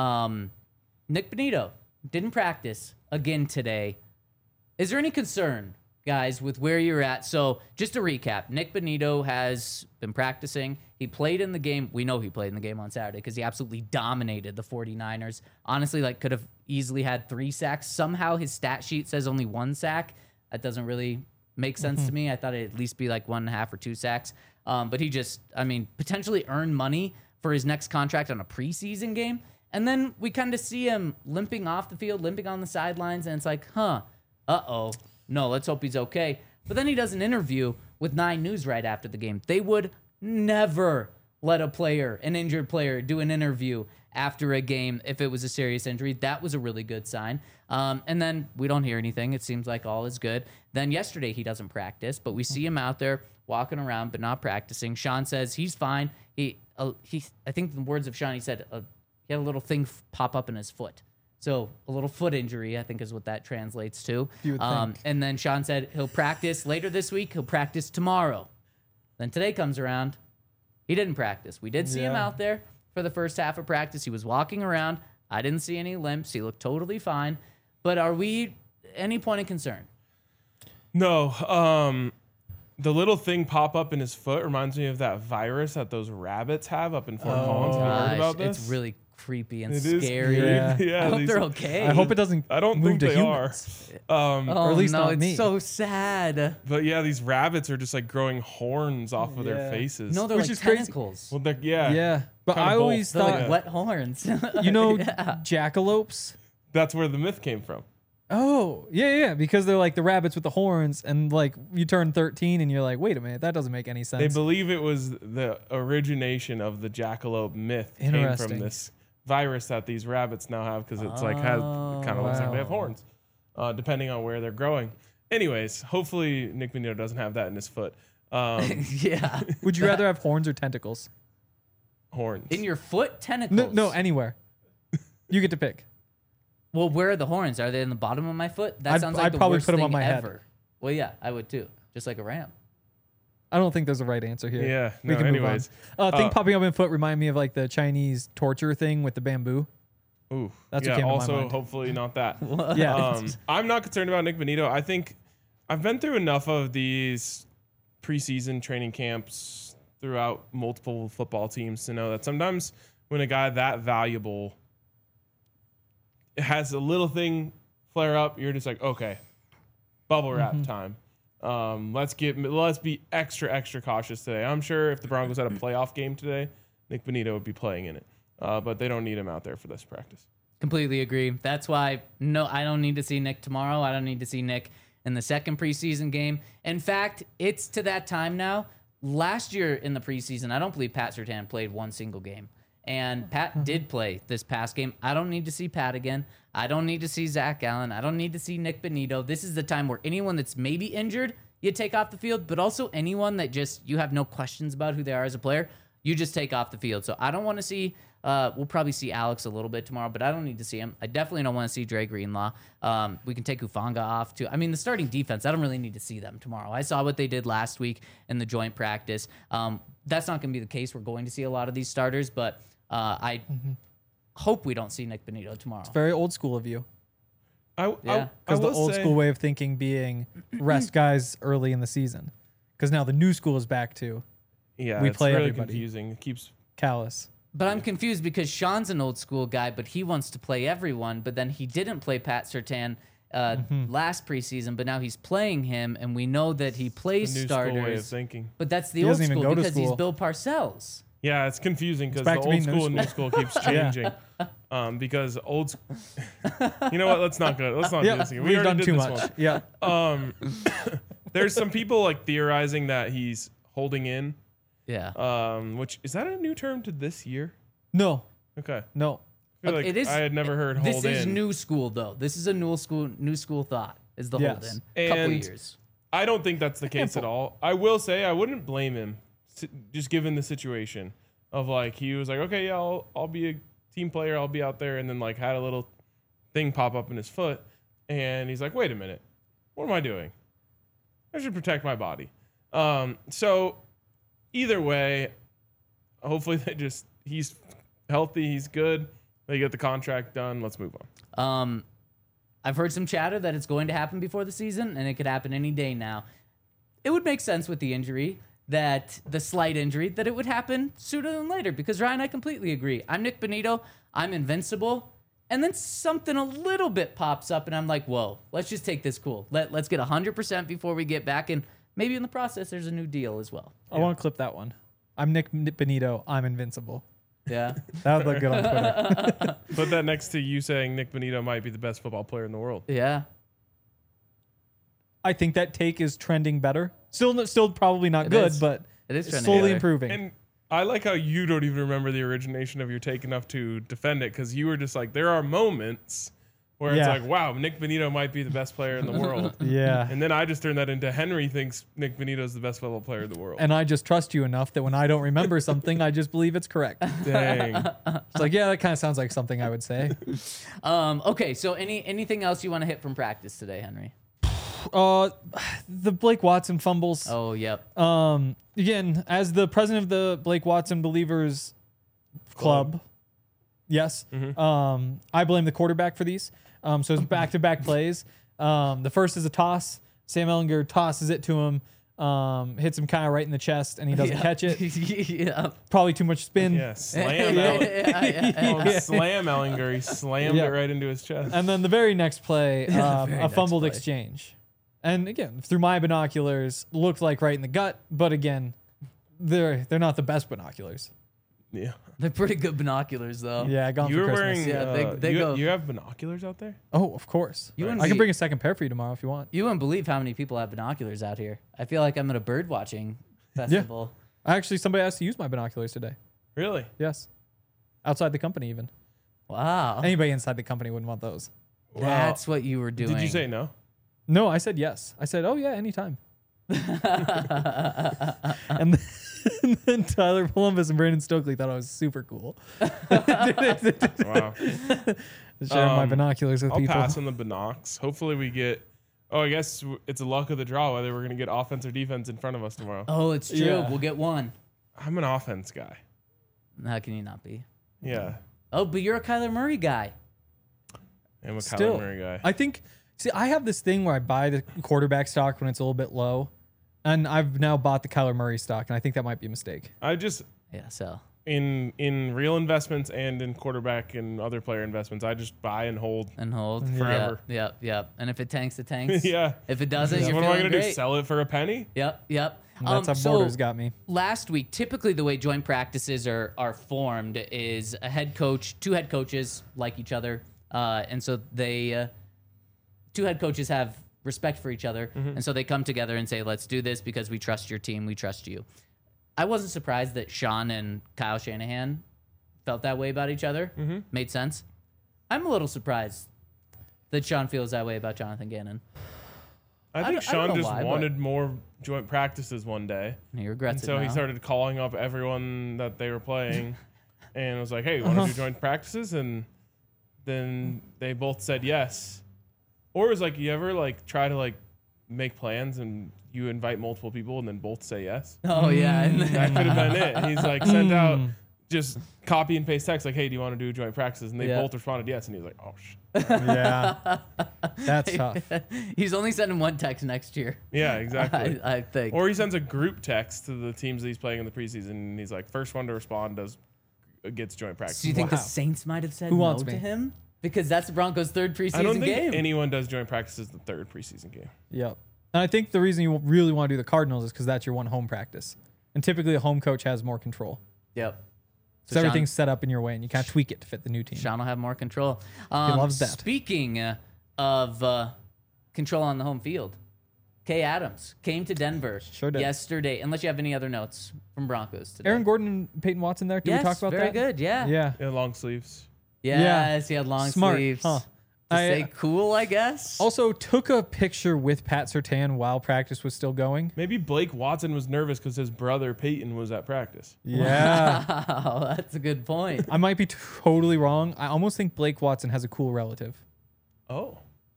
Nick Bonito didn't practice again today. Is there any concern, guys, with where you're at? So just to recap, Nick Bonito has been practicing. He played in the game. We know he played in the game on Saturday because he absolutely dominated the 49ers. Honestly, could have easily had 3 sacks. Somehow his stat sheet says only 1 sack. That doesn't really make sense to me. I thought it'd at least be 1.5 or 2 sacks. But he just, potentially earned money for his next contract on a preseason game. And then we kind of see him limping off the field, limping on the sidelines, and it's no, let's hope he's okay. But then he does an interview with 9 News right after the game. They would never let an injured player, do an interview after a game if it was a serious injury. That was a really good sign. And then we don't hear anything. It seems like all is good. Then yesterday he doesn't practice, but we see him out there walking around but not practicing. Sean says he's fine. I think the words of Sean, he said he had a little thing pop up in his foot. So a little foot injury, I think, is what that translates to.
You would think.
And then Sean said he'll practice later this week. He'll practice tomorrow. Then today comes around. He didn't practice. We did see him
Yeah.
out there for the first half of practice. He was walking around. I didn't see any limps. He looked totally fine. But are we any point of concern?
No. The little thing pop up in his foot reminds me of that virus that those rabbits have up in Fort Collins. Have you heard about this?
It's really creepy and
It is
scary.
creepy.
Yeah.
I hope
these-
they're okay.
I hope it doesn't
I don't
move
think
to
they
humans.
are.
Oh,
or at least
no,
not
it's
me.
so sad.
But yeah, these rabbits are just growing horns off of their
Yeah.
faces.
No, they're
Which
like
is crazy.
tentacles.
well, they're, yeah,
Yeah. But
Kinda
I
both.
always
They're
thought,
like wet horns.
you know, jackalopes.
that's where the myth came from.
Oh, yeah, because they're like the rabbits with the horns, and you turn 13 and you're like, wait a minute, that doesn't make any sense.
They believe it was the origination of the jackalope myth came from
Interesting.
this virus that these rabbits now have because it's it kind of looks like they have
wow.
horns, depending on where they're growing. Anyways, hopefully Nick Bonito doesn't have that in his foot.
Yeah.
Would you rather have horns or tentacles?
Horns.
In your foot, tentacles.
No, anywhere. You get to pick.
Well, where are the horns? Are they in the bottom of my foot? That
I'd-
sounds like
I'd
the
probably
worst
put 'em
thing
on my head.
ever. Well, yeah, I would too. Just like a ram.
I don't think there's a right answer here.
Yeah,
We
no,
can move
anyways.
on. Thing
Uh,
popping up in foot remind me of the Chinese torture thing with the bamboo.
Ooh,
That's
yeah.
what came to my
Also,
mind.
hopefully not that.
Yeah.
I'm not concerned about Nick Bonito. I think I've been through enough of these preseason training camps throughout multiple football teams to know that sometimes when a guy that valuable it has a little thing flare up, you're just like, okay, bubble wrap time. Let's be extra cautious today. I'm sure if the Broncos had a playoff game today, Nick Bonito would be playing in it. But they don't need him out there for this practice.
Completely agree. That's why I don't need to see Nick tomorrow. I don't need to see Nick in the second preseason game. In fact, it's to that time now. Last year in the preseason, I don't believe Pat Surtain played one single game. And Pat did play this past game. I don't need to see Pat again. I don't need to see Zach Allen. I don't need to see Nick Bonito. This is the time where anyone that's maybe injured, you take off the field, but also anyone that just you have no questions about who they are as a player, you just take off the field. So I don't want to see, we'll probably see Alex a little bit tomorrow, but I don't need to see him. I definitely don't want to see Dre Greenlaw. We can take Hufanga off too. I mean, the starting defense, I don't really need to see them tomorrow. I saw what they did last week in the joint practice. That's not going to be the case. We're going to see a lot of these starters, but I hope we don't see Nick Bonito tomorrow.
It's very old school of you.
I
Because the
will
old
say-
school way of thinking being rest guys early in the season. Because now the new school is back to
Yeah,
we
it's
play
really
everybody.
confusing. It keeps
Callus.
But I'm confused because Sean's an old school guy, but he wants to play everyone. But then he didn't play Pat Surtain last preseason, but now he's playing him, and we know that he plays
the new school way of
starters.
thinking.
But that's the
He
old
doesn't even
school
go to
because he's
school.
Bill Parcells.
Yeah, it's confusing because
back
the
to
old
being new
school and new school keeps changing. Because you know what? Let's not do this again.
We've done
already did
too
this
much.
one.
Yeah.
There's some people like theorizing that he's holding in,
Yeah.
which is that a new term to this year?
No.
Okay.
No.
I feel
Look,
like
it is-
I had never heard
This
hold
is
in.
new school, though. This is a new school thought, is the
Yes.
hold in. Couple
And-
years.
I don't think that's the case at all. I will say I wouldn't blame him, just given the situation of like he was like, okay, yeah, I'll be a team player, I'll be out there, and then like had a little thing pop up in his foot, and he's like, wait a minute, what am I doing? I should protect my body. So either way, hopefully he's healthy, he's good. They get the contract done. Let's move on.
I've heard some chatter that it's going to happen before the season, and it could happen any day now. It would make sense with the injury, that the slight injury, that it would happen sooner than later. Because Ryan, I completely agree. I'm Nick Bonito. I'm invincible. And then something a little bit pops up, and I'm like, whoa, let's just take this cool. Let's get 100% before we get back. And maybe in the process, there's a new deal as well.
I want to clip that one. I'm Nick Bonito. I'm invincible.
Yeah.
That would look good on Twitter.
Put that next to you saying Nick Bonito might be the best football player in the world.
Yeah.
I think that take is trending better. Still probably not
It
good,
is.
but
It is
it's
trending
slowly
better.
improving.
And I like how you don't even remember the origination of your take enough to defend it, because you were just like, there are moments where it's
Yeah.
like, wow, Nick Bonito might be the best player in the world.
yeah.
And then I just turned that into Henry thinks Nick Bonito is the best football player in the world.
And I just trust you enough that when I don't remember something, I just believe it's correct.
Dang.
It's like, yeah, that kind of sounds like something I would say.
Okay, so anything else you want to hit from practice today, Henry?
The Blake Watson fumbles.
Oh, yep.
Again, as the president of the Blake Watson Believers Club, yes, I blame the quarterback for these. So it's back-to-back plays. The first is a toss. Sam Ellinger tosses it to him, hits him kind of right in the chest, and he doesn't catch it.
Yeah.
Probably too much spin.
Yeah, slam Slam Ellinger. He slammed
Yeah.
it right into his chest.
And then the very next play,
very
a
next
fumbled
play.
exchange. And again, through my binoculars, looked like right in the gut. But again, they're not the best binoculars.
Yeah.
They're pretty good binoculars, though.
Yeah, I got them
You
for
were
Christmas.
wearing,
Yeah, they go-
you have binoculars out there?
Oh, of course.
You
I
wouldn't
can
be-
bring a second pair for you tomorrow if you want.
You wouldn't believe how many people have binoculars out here. I feel like I'm at a bird watching festival.
Actually, somebody asked to use my binoculars today.
Really?
Yes. Outside the company, even.
Wow.
Anybody inside the company wouldn't want those.
That's what you were doing.
Did you say no?
No, I said yes. I said, oh, yeah, anytime. and then Tyler Columbus and Brandon Stokely thought I was super cool.
Wow.
Sharing my binoculars with
I'll
people.
pass on the binocs. Hopefully we get. Oh, I guess it's a luck of the draw whether we're going to get offense or defense in front of us tomorrow.
Oh, it's true.
Yeah.
We'll get one.
I'm an offense guy.
How can you not be?
Yeah.
Oh, but you're a Kyler Murray guy.
I'm a
Still,
Kyler Murray guy.
I think. See, I have this thing where I buy the quarterback stock when it's a little bit low, and I've now bought the Kyler Murray stock, and I think that might be a mistake.
I just
Yeah, so.
in real investments and in quarterback and other player investments, I just buy and hold. Forever.
Yep. And if it tanks, it tanks.
Yeah.
If it doesn't, you're
What am I
feeling
gonna do?
great.
Sell it for a penny?
Yep.
That's how Borders got me.
Last week, typically the way joint practices are formed is two head coaches like each other, and so they two head coaches have respect for each other, and so they come together and say, "Let's do this because we trust your team, we trust you." I wasn't surprised that Sean and Kyle Shanahan felt that way about each other. Made sense. I'm a little surprised that Sean feels that way about Jonathan Gannon.
I think
don't
Sean
know
just
why, but-
wanted more joint practices one day.
And he regrets
And
it
so
now.
he started calling up everyone that they were playing and was like, hey, you want to do joint practices? And then they both said yes. Or it was like, you ever like try to like make plans and you invite multiple people and then both say yes?
Oh yeah.
That could have been it. And he's like, sent out just copy and paste text like, hey, do you want to do joint practices? And they
Yeah.
both responded yes. And he was like, oh,
Yeah. That's tough.
He's only sending one text next year.
yeah, exactly.
I think.
Or he sends a group text to the teams that he's playing in the preseason, and he's like, first one to respond gets joint practice.
Do you think the
Wow.
Saints might have said
Who
no
wants
to
me?
him? Because that's the Broncos' third preseason
I don't think
game.
anyone does joint practices the third preseason game.
Yep. And I think the reason you really want to do the Cardinals is because that's your one home practice. And typically a home coach has more control.
Yep.
So everything's set up in your way and you can't tweak it to fit the new team.
Sean will have more control.
loves that.
Speaking of control on the home field, Kay Adams came to Denver
Sure did.
yesterday. Unless you have any other notes from Broncos today.
Aaron Gordon and Peyton Watson there. Did
yes,
we talk about
very
that?
good. Yeah.
Yeah.
Yeah, long sleeves.
Yes, he had long
Smart.
sleeves.
Huh.
To say cool, I guess.
Also took a picture with Pat Surtain while practice was still going.
Maybe Blake Watson was nervous because his brother Peyton was at practice.
Yeah.
Wow, that's a good point.
I might be totally wrong. I almost think Blake Watson has a cool relative.
Oh.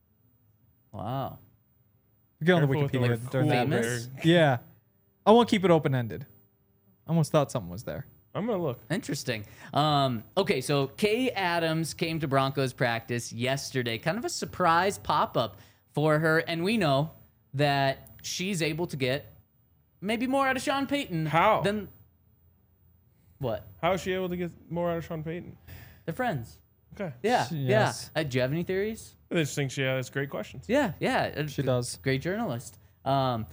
Wow.
Get on the
Careful with the
Wikipedia.
word
They're
cool
Famous?
there.
Yeah. I won't keep it open-ended. I almost thought something was there.
I'm going to look.
Interesting. Okay, so Kay Adams came to Broncos practice yesterday. Kind of a surprise pop-up for her. And we know that she's able to get maybe more out of Sean Payton.
How?
Than what?
How is she able to get more out of Sean Payton?
They're friends.
Okay.
Yeah,
Yes.
yeah. Do you have any theories?
I just think she has great questions.
Yeah.
She does.
Great journalist. And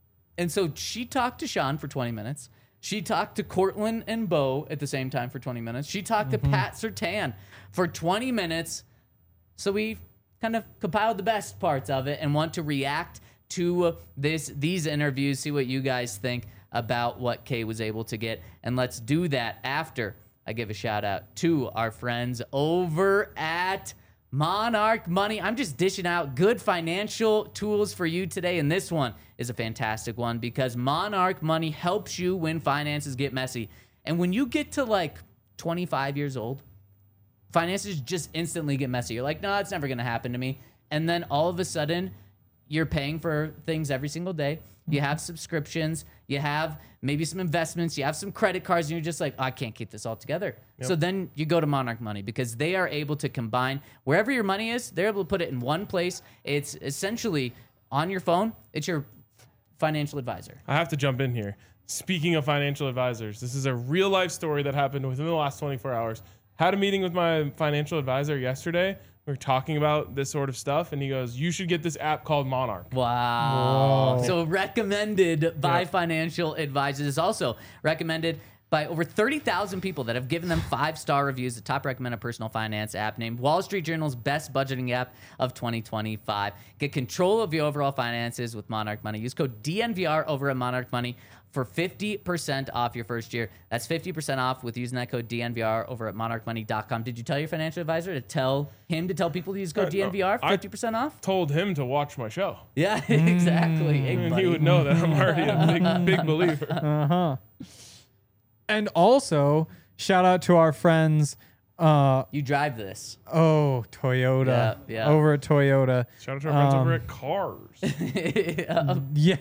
so she talked to Sean for 20 minutes. She talked to Cortland and Bo at the same time for 20 minutes. She talked to Pat Surtain for 20 minutes. So we kind of compiled the best parts of it and want to react to these interviews, see what you guys think about what Kay was able to get. And let's do that after I give a shout out to our friends over at Monarch Money. I'm just dishing out good financial tools for you today, and this one is a fantastic one because Monarch Money helps you when finances get messy. And when you get to like 25 years old, finances just instantly get messy. You're like, no, it's never going to happen to me. And then all of a sudden, you're paying for things every single day. You have subscriptions. You have maybe some investments. You have some credit cards, and you're just like, I can't keep this all together. So then you go to Monarch Money because they are able to combine wherever your money is. They're able to put it in one place. It's essentially on your phone. It's your financial advisor.
I have to jump in here. Speaking of financial advisors, this is a real life story that happened within the last 24 hours. Had a meeting with my financial advisor yesterday. We were talking about this sort of stuff, and he goes, you should get this app called Monarch.
Wow.
Whoa.
So recommended by
Yep.
financial advisors. It's also recommended by over 30,000 people that have given them 5-star reviews. The top recommended personal finance app named Wall Street Journal's best budgeting app of 2025. Get control of your overall finances with Monarch Money. Use code DNVR over at Monarch Money for 50% off your first year. That's 50% off with using that code DNVR over at monarchmoney.com. Did you tell your financial advisor to tell people to use code
No,
DNVR for
I-
50% off?
Told him to watch my show.
Yeah, exactly. Hey,
And
buddy.
he would know that I'm already a big believer.
And also, shout out to our friends,
You drive this.
Toyota.
Yeah.
Over at Toyota.
Shout out to our friends over at Cars.
Yes.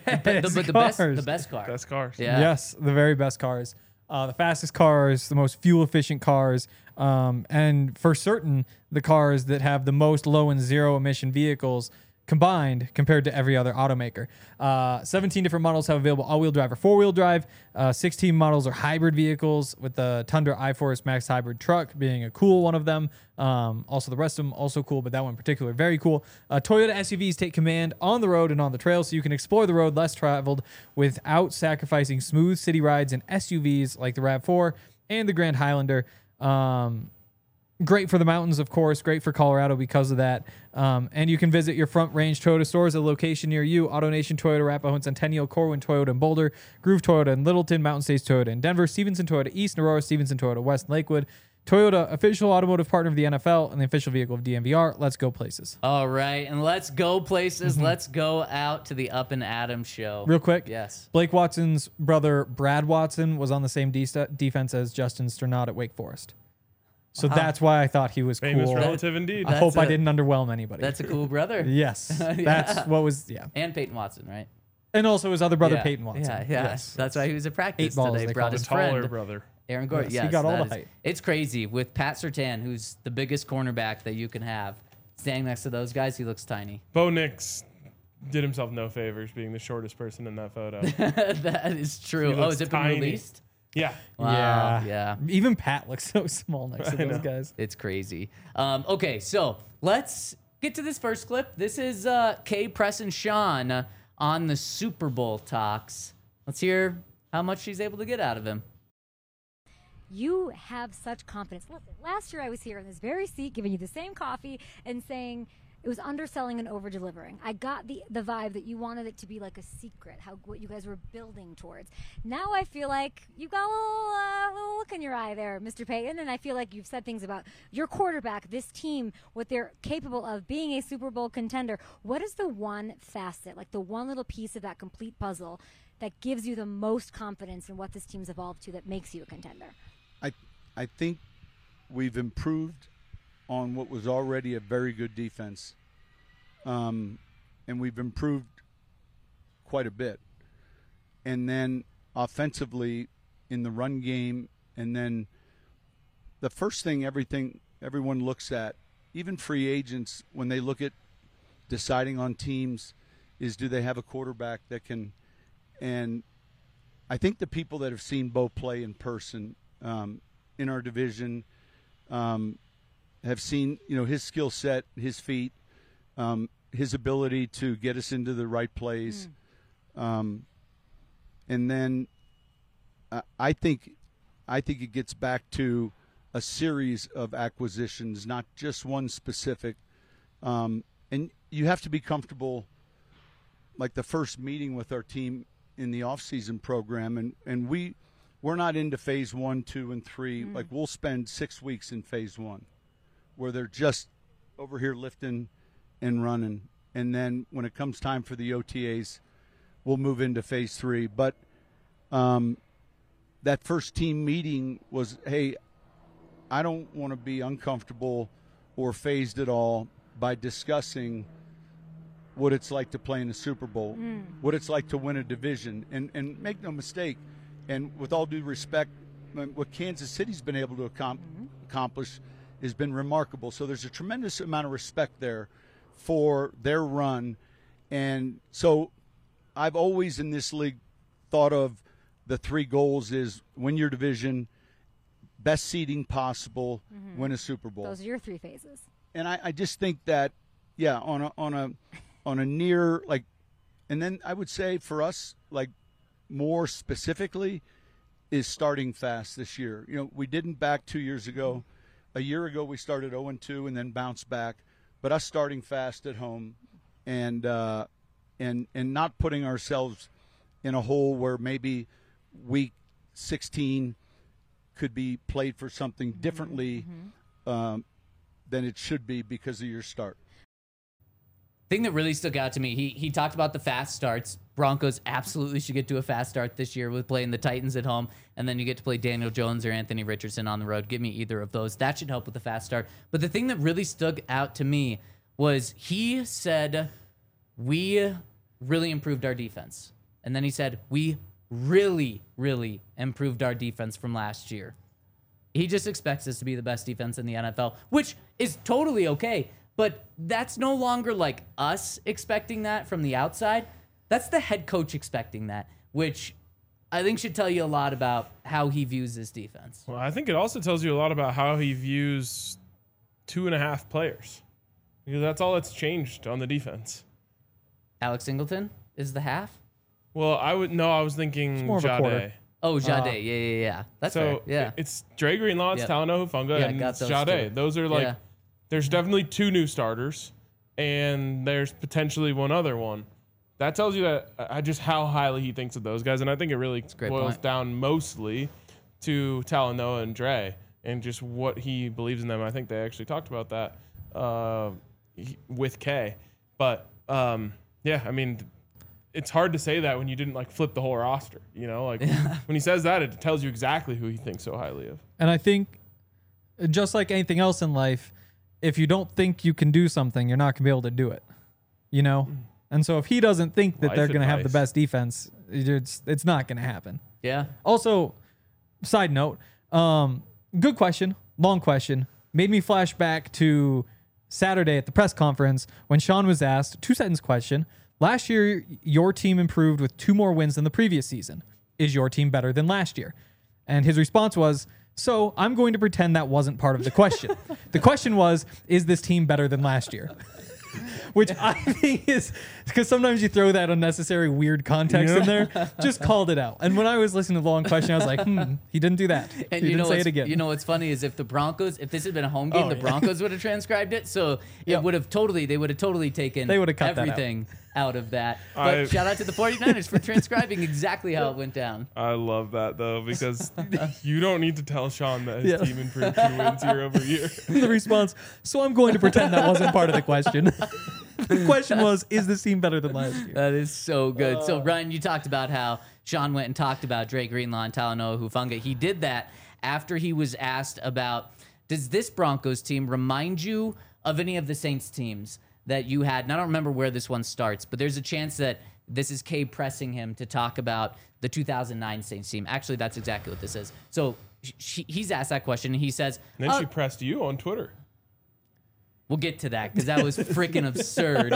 The best car.
Best cars.
Yeah.
Yes, the very best cars. The fastest cars, the most fuel efficient cars, and for certain, the cars that have the most low and zero emission vehicles combined compared to every other automaker. 17 different models have available all-wheel drive or four-wheel drive. 16 models are hybrid vehicles, with the Tundra iForce Max hybrid truck being a cool one of them. Also, the rest of them also cool, but that one in particular, very cool. Toyota SUVs take command on the road and on the trail, so you can explore the road less traveled without sacrificing smooth city rides in SUVs like the RAV4 and the Grand Highlander. Great for the mountains, of course. Great for Colorado because of that. And you can visit your Front Range Toyota stores at a location near you. AutoNation Toyota, Arapahoe and Centennial, Corwin Toyota in Boulder, Groove Toyota in Littleton, Mountain States Toyota in Denver, Stevenson Toyota East, Aurora, Stevenson Toyota West, and Lakewood. Toyota, official automotive partner of the NFL and the official vehicle of DMVR. Let's go places.
All right, and let's go places. Let's go out to the Up and Adam show.
Real quick.
Yes.
Blake Watson's brother, Brad Watson, was on the same defense as Justin Sternad at Wake Forest. So that's why I thought he was
Famous
cool.
relative indeed.
I hope I didn't underwhelm anybody.
That's a cool brother.
Yes. That's what was, yeah.
And Peyton Watson, right?
And also his other brother,
Yeah.
Peyton Watson.
Yeah.
Yes.
That's why he was at practice
8 balls,
today.
they
Brought
call
his
The taller
friend,
brother.
Aaron Gordon.
Yes, he
Yes,
got all
that
the
is-
height.
It's crazy with Pat Surtain, who's the biggest cornerback that you can have. Standing next to those guys, he looks tiny.
Bo Nix did himself no favors being the shortest person in that photo.
That is true.
He
Oh,
looks
has it been
tiny.
released?
Yeah.
Wow, yeah.
Even Pat looks so small next to
I
those
know.
guys.
It's crazy. Okay, so let's get to this first clip. This is Kay Preston Sean on the Super Bowl talks. Let's hear how much she's able to get out of him.
You have such confidence. Listen, last year I was here in this very seat giving you the same coffee and saying it was underselling and over-delivering. I got the vibe that you wanted it to be like a secret, what you guys were building towards. Now I feel like you've got a little look in your eye there, Mr. Payton, and I feel like you've said things about your quarterback, this team, what they're capable of, being a Super Bowl contender. What is the one facet, like the one little piece of that complete puzzle that gives you the most confidence in what this team's evolved to that makes you a contender?
I think we've improved on what was already a very good defense, and we've improved quite a bit. And then offensively in the run game, and then the first thing everyone looks at, even free agents, when they look at deciding on teams, is do they have a quarterback that can. And I think the people that have seen Bo play in person in our division have seen, his skill set, his feet, his ability to get us into the right plays. And then I think it gets back to a series of acquisitions, not just one specific. And you have to be comfortable, like the first meeting with our team in the off-season program, and we're not into phase 1, 2, and 3. Like, we'll spend 6 weeks in phase 1 where they're just over here lifting and running. And then when it comes time for the OTAs, we'll move into phase 3. But that first team meeting was, hey, I don't want to be uncomfortable or phased at all by discussing what it's like to play in the Super Bowl, what it's like to win a division. And make no mistake, and with all due respect, what Kansas City's been able to accomplish has been remarkable. So there's a tremendous amount of respect there for their run. And so I've always in this league thought of the 3 goals is win your division, best seeding possible, win a Super Bowl.
Those are your 3 phases.
And I just think that, yeah, on a near, like, and then I would say for us, like, more specifically is starting fast this year. We didn't back 2 years ago. A year ago we started 0-2 and then bounced back. But us starting fast at home and not putting ourselves in a hole where maybe week 16 could be played for something differently than it should be because of your start.
Thing that really stuck out to me, he talked about the fast starts. Broncos absolutely should get to a fast start this year with playing the Titans at home, and then you get to play Daniel Jones or Anthony Richardson on the road. Give me either of those. That should help with the fast start. But the thing that really stuck out to me was he said, we really improved our defense. And then he said, we really, really improved our defense from last year. He just expects us to be the best defense in the NFL, which is totally okay. But that's no longer like us expecting that from the outside. That's the head coach expecting that, which I think should tell you a lot about how he views this defense.
Well, I think it also tells you a lot about how he views 2.5 players, because that's all that's changed on the defense.
Alex Singleton is the half?
Well, I was thinking
more of a quarter.
Jade.
Oh, Jade. Yeah. That's fair.
So
Yeah.
it's Dre Greenlaw, it's
Yep.
Talanoa Hufanga,
Yeah,
and
got
it's
those
Jade.
two.
Those are like,
Yeah.
there's definitely 2 new starters, and there's potentially one other one. That tells you that just how highly he thinks of those guys, and I think it really
a great
boils
point.
down mostly to Talanoa and Dre and just what he believes in them. I think they actually talked about that with K. But yeah, I mean, it's hard to say that when you didn't like flip the whole roster. You know, like when he says that, it tells you exactly who he thinks so highly of.
And I think, just like anything else in life, if you don't think you can do something, you're not going to be able to do it. You know? And so if he doesn't think that
Life
they're going to have the
advice.
best defense, it's not going to happen.
Yeah.
Also, side note, good question, long question, made me flash back to Saturday at the press conference when Sean was asked, 2-sentence question. Last year, your team improved with 2 more wins than the previous season. Is your team better than last year? And his response was, so I'm going to pretend that wasn't part of the question. The question was, is this team better than last year? Which I think is, because sometimes you throw that unnecessary weird context in there, just called it out. And when I was listening to the long question, I was like, he didn't do that.
And
He
you
didn't
know
say
what's,
it again.
you know what's funny is if this had been a home game,
Oh,
the
yeah.
Broncos would have transcribed it. So
Yep.
it would have totally taken
They would have cut that out.
everything out of that. But shout out to the 49ers for transcribing exactly how it went down.
I love that though, because you don't need to tell Sean that his
Yeah.
team improved 2 wins year over year.
The response, so I'm going to pretend that wasn't part of the question. The question was, is this team better than last year?
That is so good. So Ryan, you talked about how Sean went and talked about Dre Greenlaw and Talanoa Hufanga. He did that after he was asked about, does this Broncos team remind you of any of the Saints teams that you had? And I don't remember where this one starts, but there's a chance that this is Kay pressing him to talk about the 2009 Saints team. Actually, that's exactly what this is. So he's asked that question, and he says,
And then she pressed you on Twitter.
we'll get to that because that was freaking absurd.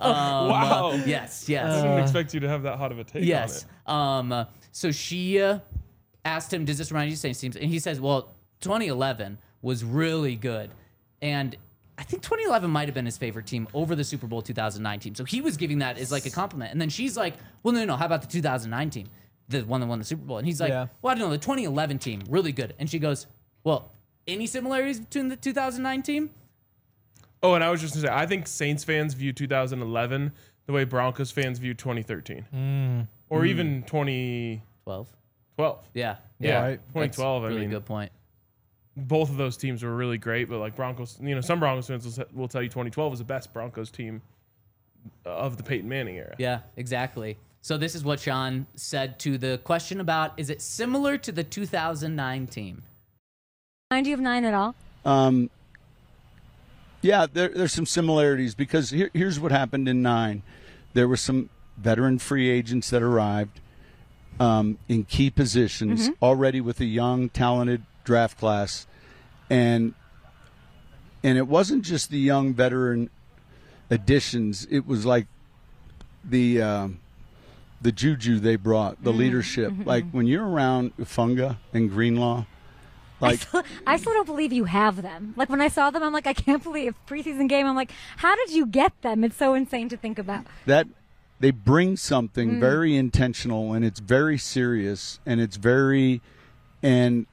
Wow.
Yes.
I didn't expect you to have that hot of a take
Yes.
on it.
So she asked him, does this remind you of Saints teams? And he says, well, 2011 was really good. And I think 2011 might have been his favorite team over the Super Bowl 2009 team. So he was giving that as like a compliment. And then she's like, well, no, how about the 2009 team? The one that won the Super Bowl. And he's like,
Yeah.
well, I don't know, the 2011 team, really good. And she goes, well, any similarities between the 2009 team?
Oh, and I was just going to say, I think Saints fans view 2011 the way Broncos fans view 2013. Or even 2012.
12. Yeah.
Yeah,
Right.
2012.
Really
I mean,
good point.
both of those teams were really great, but like Broncos, some Broncos fans will tell you 2012 was the best Broncos team of the Peyton Manning era.
Yeah, exactly. So this is what Sean said to the question about, is it similar to the 2009 team?
Remind you of 9 at all?
Yeah, there's some similarities because here's what happened in 9. There were some veteran free agents that arrived in key positions already with a young, talented draft class. And it wasn't just the young veteran additions. It was like the juju they brought, the leadership. Like when you're around Hufanga and Greenlaw, like
I still don't believe you have them. Like when I saw them, I'm like, I can't believe preseason game. I'm like, how did you get them? It's so insane to think about.
that they bring something very intentional, and it's very serious, and it's very and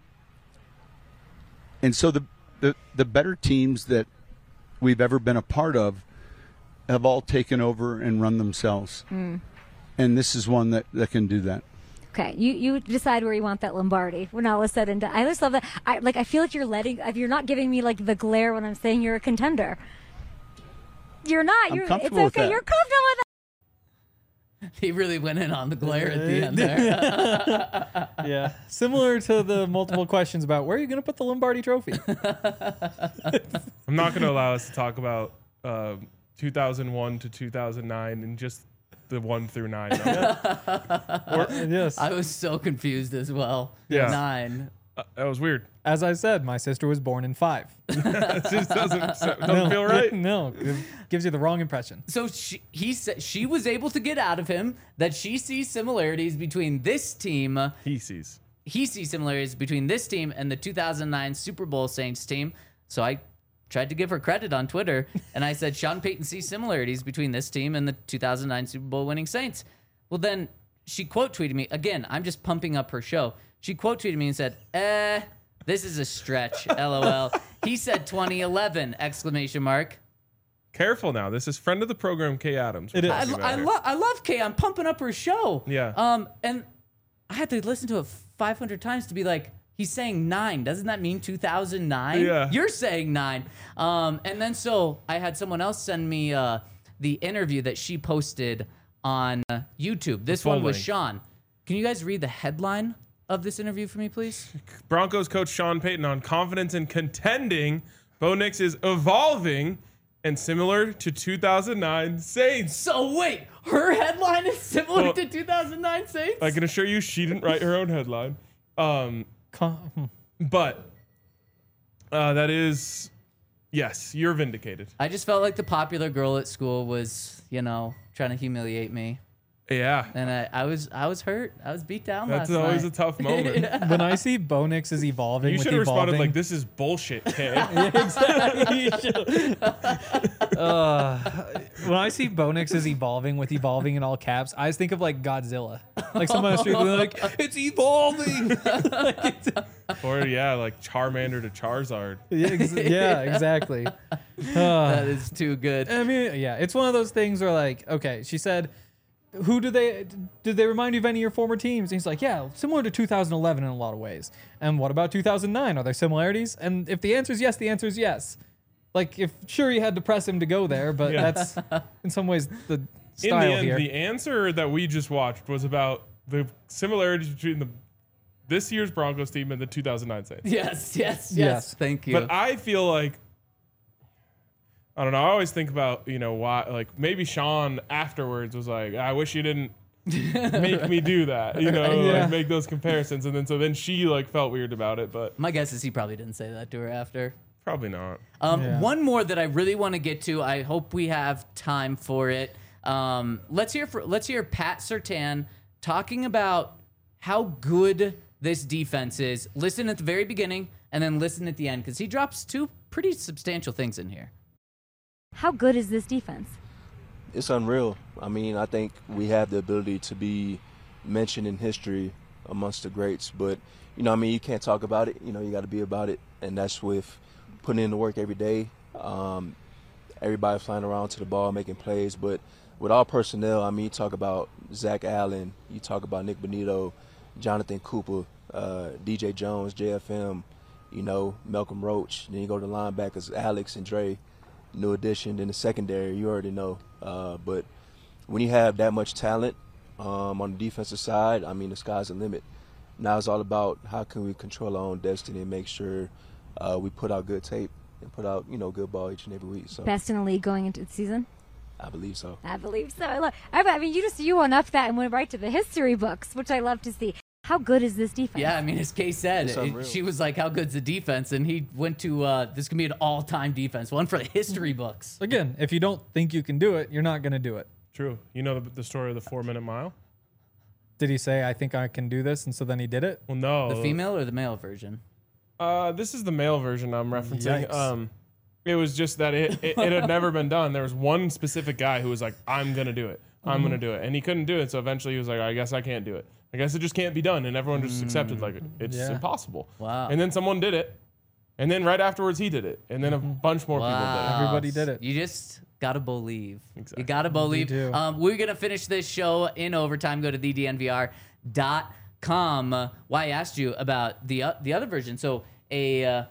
so the better teams that we've ever been a part of have all taken over and run themselves. And this is one that can do that.
Okay, you decide where you want that Lombardi when all is said and done. I just love that. I feel like you're not giving me like the glare when I'm saying you're a contender. You're not.
I'm
It's
comfortable with
okay.
that.
You're comfortable with that.
He really went in on the glare at the end there.
Yeah. Similar to the multiple questions about where are you going to put the Lombardi trophy?
I'm not going to allow us to talk about 2001 to 2009 and just the 1 through 9 number.
Yes.
I was so confused as well.
Yeah.
9.
That was weird.
As I said, my sister was born in 5.
It just doesn't feel right.
No, it gives you the wrong impression.
So he said she was able to get out of him that she sees similarities between this team.
He sees.
He sees similarities between this team and the 2009 Super Bowl Saints team. So I tried to give her credit on Twitter, and I said Sean Payton sees similarities between this team and the 2009 Super Bowl winning Saints. Well, then she quote tweeted me again. I'm just pumping up her show. She quote tweeted me and said, this is a stretch, LOL. He said 2011, exclamation mark.
Careful now. This is friend of the program, Kay Adams.
It is.
I love Kay. I'm pumping up her show.
Yeah.
And I had to listen to it 500 times to be like, he's saying 9. Doesn't that mean 2009?
Yeah.
You're saying 9. And then so I had someone else send me the interview that she posted on YouTube. This one was
length.
Sean. Can you guys read the headline of this interview for me, please?
Broncos coach Sean Payton on confidence in contending. Bo Nix is evolving and similar to 2009 Saints.
So wait, her headline is similar
Well,
to 2009 Saints?
I can assure you she didn't write her own headline. But that is, yes, you're vindicated.
I just felt like the popular girl at school was, trying to humiliate me.
Yeah.
And I was hurt. I was beat down
That's
last night.
always a tough moment.
When I see Bo Nix is evolving
You
with
should have responded
evolving,
like, this is bullshit, Kay.
when I see Bo Nix is evolving with evolving in all caps, I just think of like Godzilla. Like someone on the street being like, it's evolving.
Or, yeah, like Charmander to Charizard.
Yeah, exactly.
That is too good.
I mean, yeah, it's one of those things where like, okay, she said, did they remind you of any of your former teams? And he's like, yeah, similar to 2011 in a lot of ways. And what about 2009? Are there similarities? And if the answer is yes, the answer is yes. Like, if sure you had to press him to go there, but
Yeah.
that's in some ways the
In
style
the end,
here.
the answer that we just watched was about the similarities between this year's Broncos team and the 2009 Saints.
Yes. Thank you.
But I feel like, I don't know. I always think about, why, like maybe Sean afterwards was like, I wish you didn't make me do that,
Yeah.
like make those comparisons. And then she like felt weird about it, but
My guess is he probably didn't say that to her after.
probably not.
Yeah.
One more that I really want to get to. I hope we have time for it. Let's hear Pat Surtain talking about how good this defense is. Listen at the very beginning and then listen at the end because he drops 2 pretty substantial things in here.
How good is this defense?
It's unreal. I mean, I think we have the ability to be mentioned in history amongst the greats, but you can't talk about it. You got to be about it, and that's with putting in the work every day. Everybody flying around to the ball, making plays, but with all personnel, you talk about Zach Allen, you talk about Nick Bonito, Jonathan Cooper, DJ Jones, JFM, Malcolm Roach. Then you go to the linebackers, Alex and Dre. New addition in the secondary, you already know. But when you have that much talent on the defensive side, the sky's the limit. Now it's all about how can we control our own destiny and make sure we put out good tape and put out, good ball each and every week. So
Best in the league going into the season?
I believe so.
I believe so. You one up that and went right to the history books, which I love to see. How good is this defense?
Yeah, as Kay said,
It's unreal.
she was like, how good's the defense? And he went to, this can be an all-time defense, one for the history books.
Again, if you don't think you can do it, you're not going to do it.
True. You know the story of the 4-minute mile?
Did he say, I think I can do this, and so then he did it?
Well, no.
The female or the male version?
This is the male version I'm referencing.
Yikes.
It was just that it had never been done. There was one specific guy who was like, I'm going to do it. I'm going to do it. And he couldn't do it. So eventually he was like, I guess I can't do it. I guess it just can't be done. And everyone just accepted like it's
Yeah.
impossible.
Wow.
And then someone did it. And then right afterwards he did it. And then a bunch more people did it.
Everybody did it.
You just gotta believe.
Exactly.
You gotta believe.
do.
We're gonna finish this show in overtime. Go to thednvr.com. Why I asked you about the other version. So a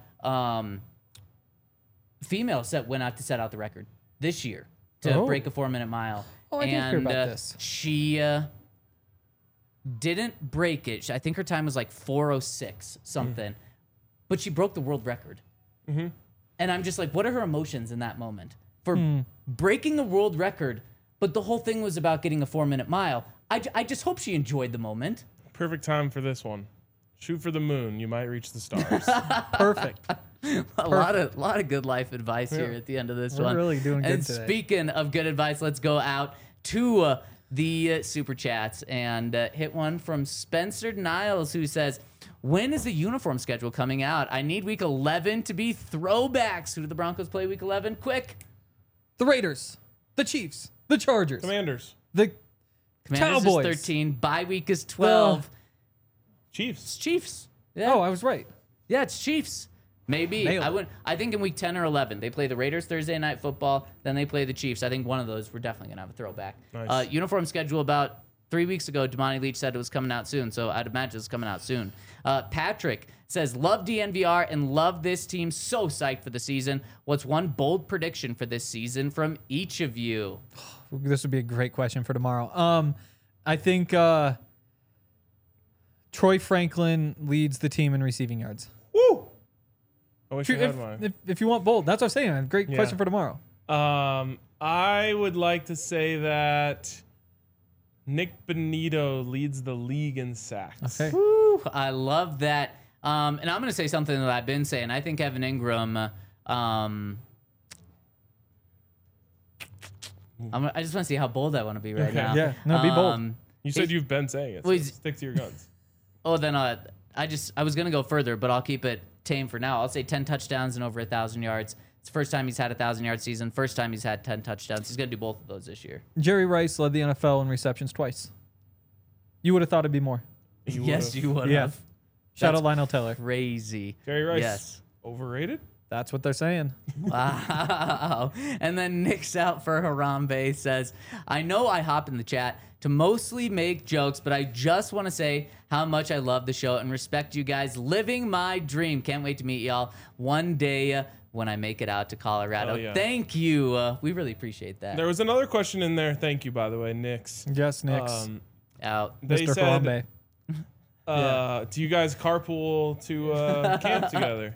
female went out to set out the record this year to
Oh.
break a 4-minute mile.
Oh, I did hear
and
about this.
she didn't break it. I think her time was like 4:06 something, but she broke the world record. And I'm just like, what are her emotions in that moment for breaking a world record? But the whole thing was about getting a 4-minute mile. I just hope she enjoyed the moment.
Perfect time for this one. Shoot for the moon. You might reach the stars.
Perfect.
A lot of good life advice here at the end of this
We're
one.
really doing good
and
today.
Speaking of good advice, let's go out to the super chats and hit one from Spencer Niles, who says, when is the uniform schedule coming out? I need week 11 to be throwbacks. Who do the Broncos play week 11? Quick.
The Raiders, the Chiefs, the Chargers,
Commanders.
the
Commanders
Cowboys.
is 13. Bye week is 12.
Chiefs.
It's Chiefs. Yeah.
Oh, I was right.
Yeah, it's Chiefs. Maybe.
Nailed it.
I think in week 10 or 11, they play the Raiders Thursday Night Football, then they play the Chiefs. I think one of those we're definitely going to have a throwback.
Nice.
Uniform schedule about 3 weeks ago, Damani Leach said it was coming out soon, so I'd imagine it's coming out soon. Patrick says, love DNVR and love this team. So psyched for the season. What's one bold prediction for this season from each of you?
This would be a great question for tomorrow. I think Troy Franklin leads the team in receiving yards.
Woo! I wish I had mine.
If you want bold, that's what I'm saying. Great question for tomorrow.
I would like to say that Nick Benito leads the league in sacks.
Okay.
Woo, I love that. And I'm going to say something that I've been saying. I think Evan Ingram. I just want to see how bold I want to be right now.
Yeah. No, be bold.
You said you've been saying it. So
Well, he's-
stick to your guns.
Oh, then I was going to go further, but I'll keep it tame for now. I'll say 10 touchdowns and over 1,000 yards. It's the first time he's had a 1,000-yard season. First time he's had 10 touchdowns. He's going to do both of those this year.
Jerry Rice led the NFL in receptions twice. You would have thought it'd be more.
Yes, you would
Yeah.
have.
Shout
That's
out Lionel Taylor.
Crazy.
Jerry Rice.
Yes.
Overrated?
That's what they're saying.
Wow. And then Nick's out for Harambe says, I know I hop in the chat to mostly make jokes, but I just want to say how much I love the show and respect you guys. Living my dream. Can't wait to meet y'all one day when I make it out to Colorado.
Oh, yeah.
Thank you. We really appreciate that.
There was another question in there. Thank you, by the way, Nix.
Yes, Knicks.
Out.
They
Mr.
said,
Harambe.
do you guys carpool to camp together?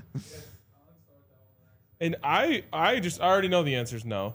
And I already know the answer is no.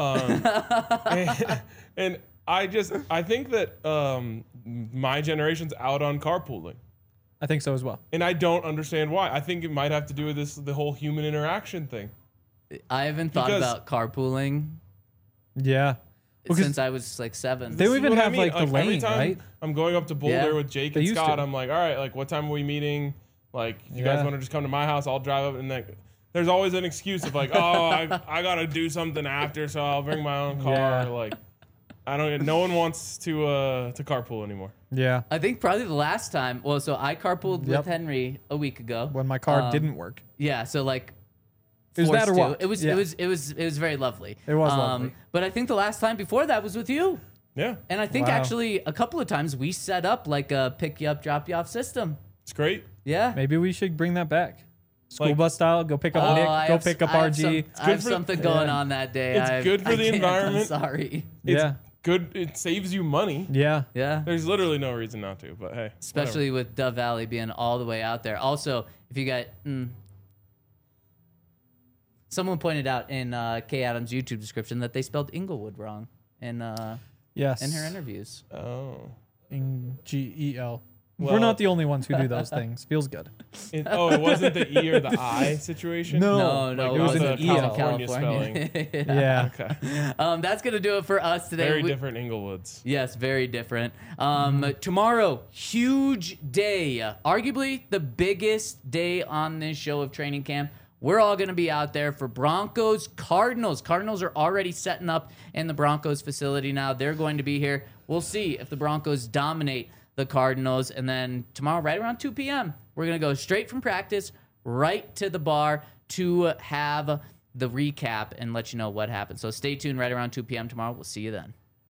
And I think that my generation's out on carpooling.
I think so as well.
And I don't understand why. I think it might have to do with the whole human interaction thing.
I haven't thought
Because-
about carpooling
Yeah. Because
since I was like 7.
They
This is
even
what I
have,
mean.
like, the
every
lane,
time
right?
I'm going up to Boulder
Yeah.
with Jake
They
and
used
Scott.
to.
I'm like, all right, like what time are we meeting? Like, you guys
Yeah.
want to just come to my house? I'll drive up. And like, there's always an excuse of like, oh, I gotta do something after, so I'll bring my own car.
Yeah.
Like, no one wants to carpool anymore.
Yeah.
I think probably the last time. Well, so I carpooled
Yep.
with Henry a week ago.
When my car
Um,
didn't work.
Yeah, so like
It was that or
forced to.
what?
It was
Yeah.
it was very lovely.
It was lovely.
But I think the last time before that was with you.
Yeah,
And I think
Wow.
actually a couple of times we set up like a pick you up, drop you off system.
it's great.
Yeah.
Maybe we should bring that back. School
Like-
bus style. Go pick up
Oh,
Nick.
I
Go
have-
pick up
I have
RG.
I have
for-
something going on that day.
It's good for the
can't,
environment.
I'm sorry.
It's
Yeah.
good. It saves you money.
Yeah.
Yeah.
There's literally no reason not to. But hey,
Especially with Dove Valley being all the way out there. Also, if you got someone pointed out in Kay Adams' YouTube description that they spelled Inglewood wrong in
Yes.
her interviews.
whatever. Oh.
GEL.
Well-
We're not the only ones who do those things. Feels good.
It wasn't the E or the I situation.
No.
No,
Like,
it was
a
an EL.
California spelling.
Yeah.
Okay.
That's gonna do it for us today.
Very
We-
different Inglewoods.
Yes, very different. Tomorrow, huge day. Arguably the biggest day on this show of training camp. We're all going to be out there for Broncos Cardinals. Cardinals are already setting up in the Broncos facility now. They're going to be here. We'll see if the Broncos dominate the Cardinals. And then tomorrow, right around 2 p.m., we're going to go straight from practice right to the bar to have the recap and let you know what happened. So stay tuned right around 2 p.m. tomorrow. We'll see you then.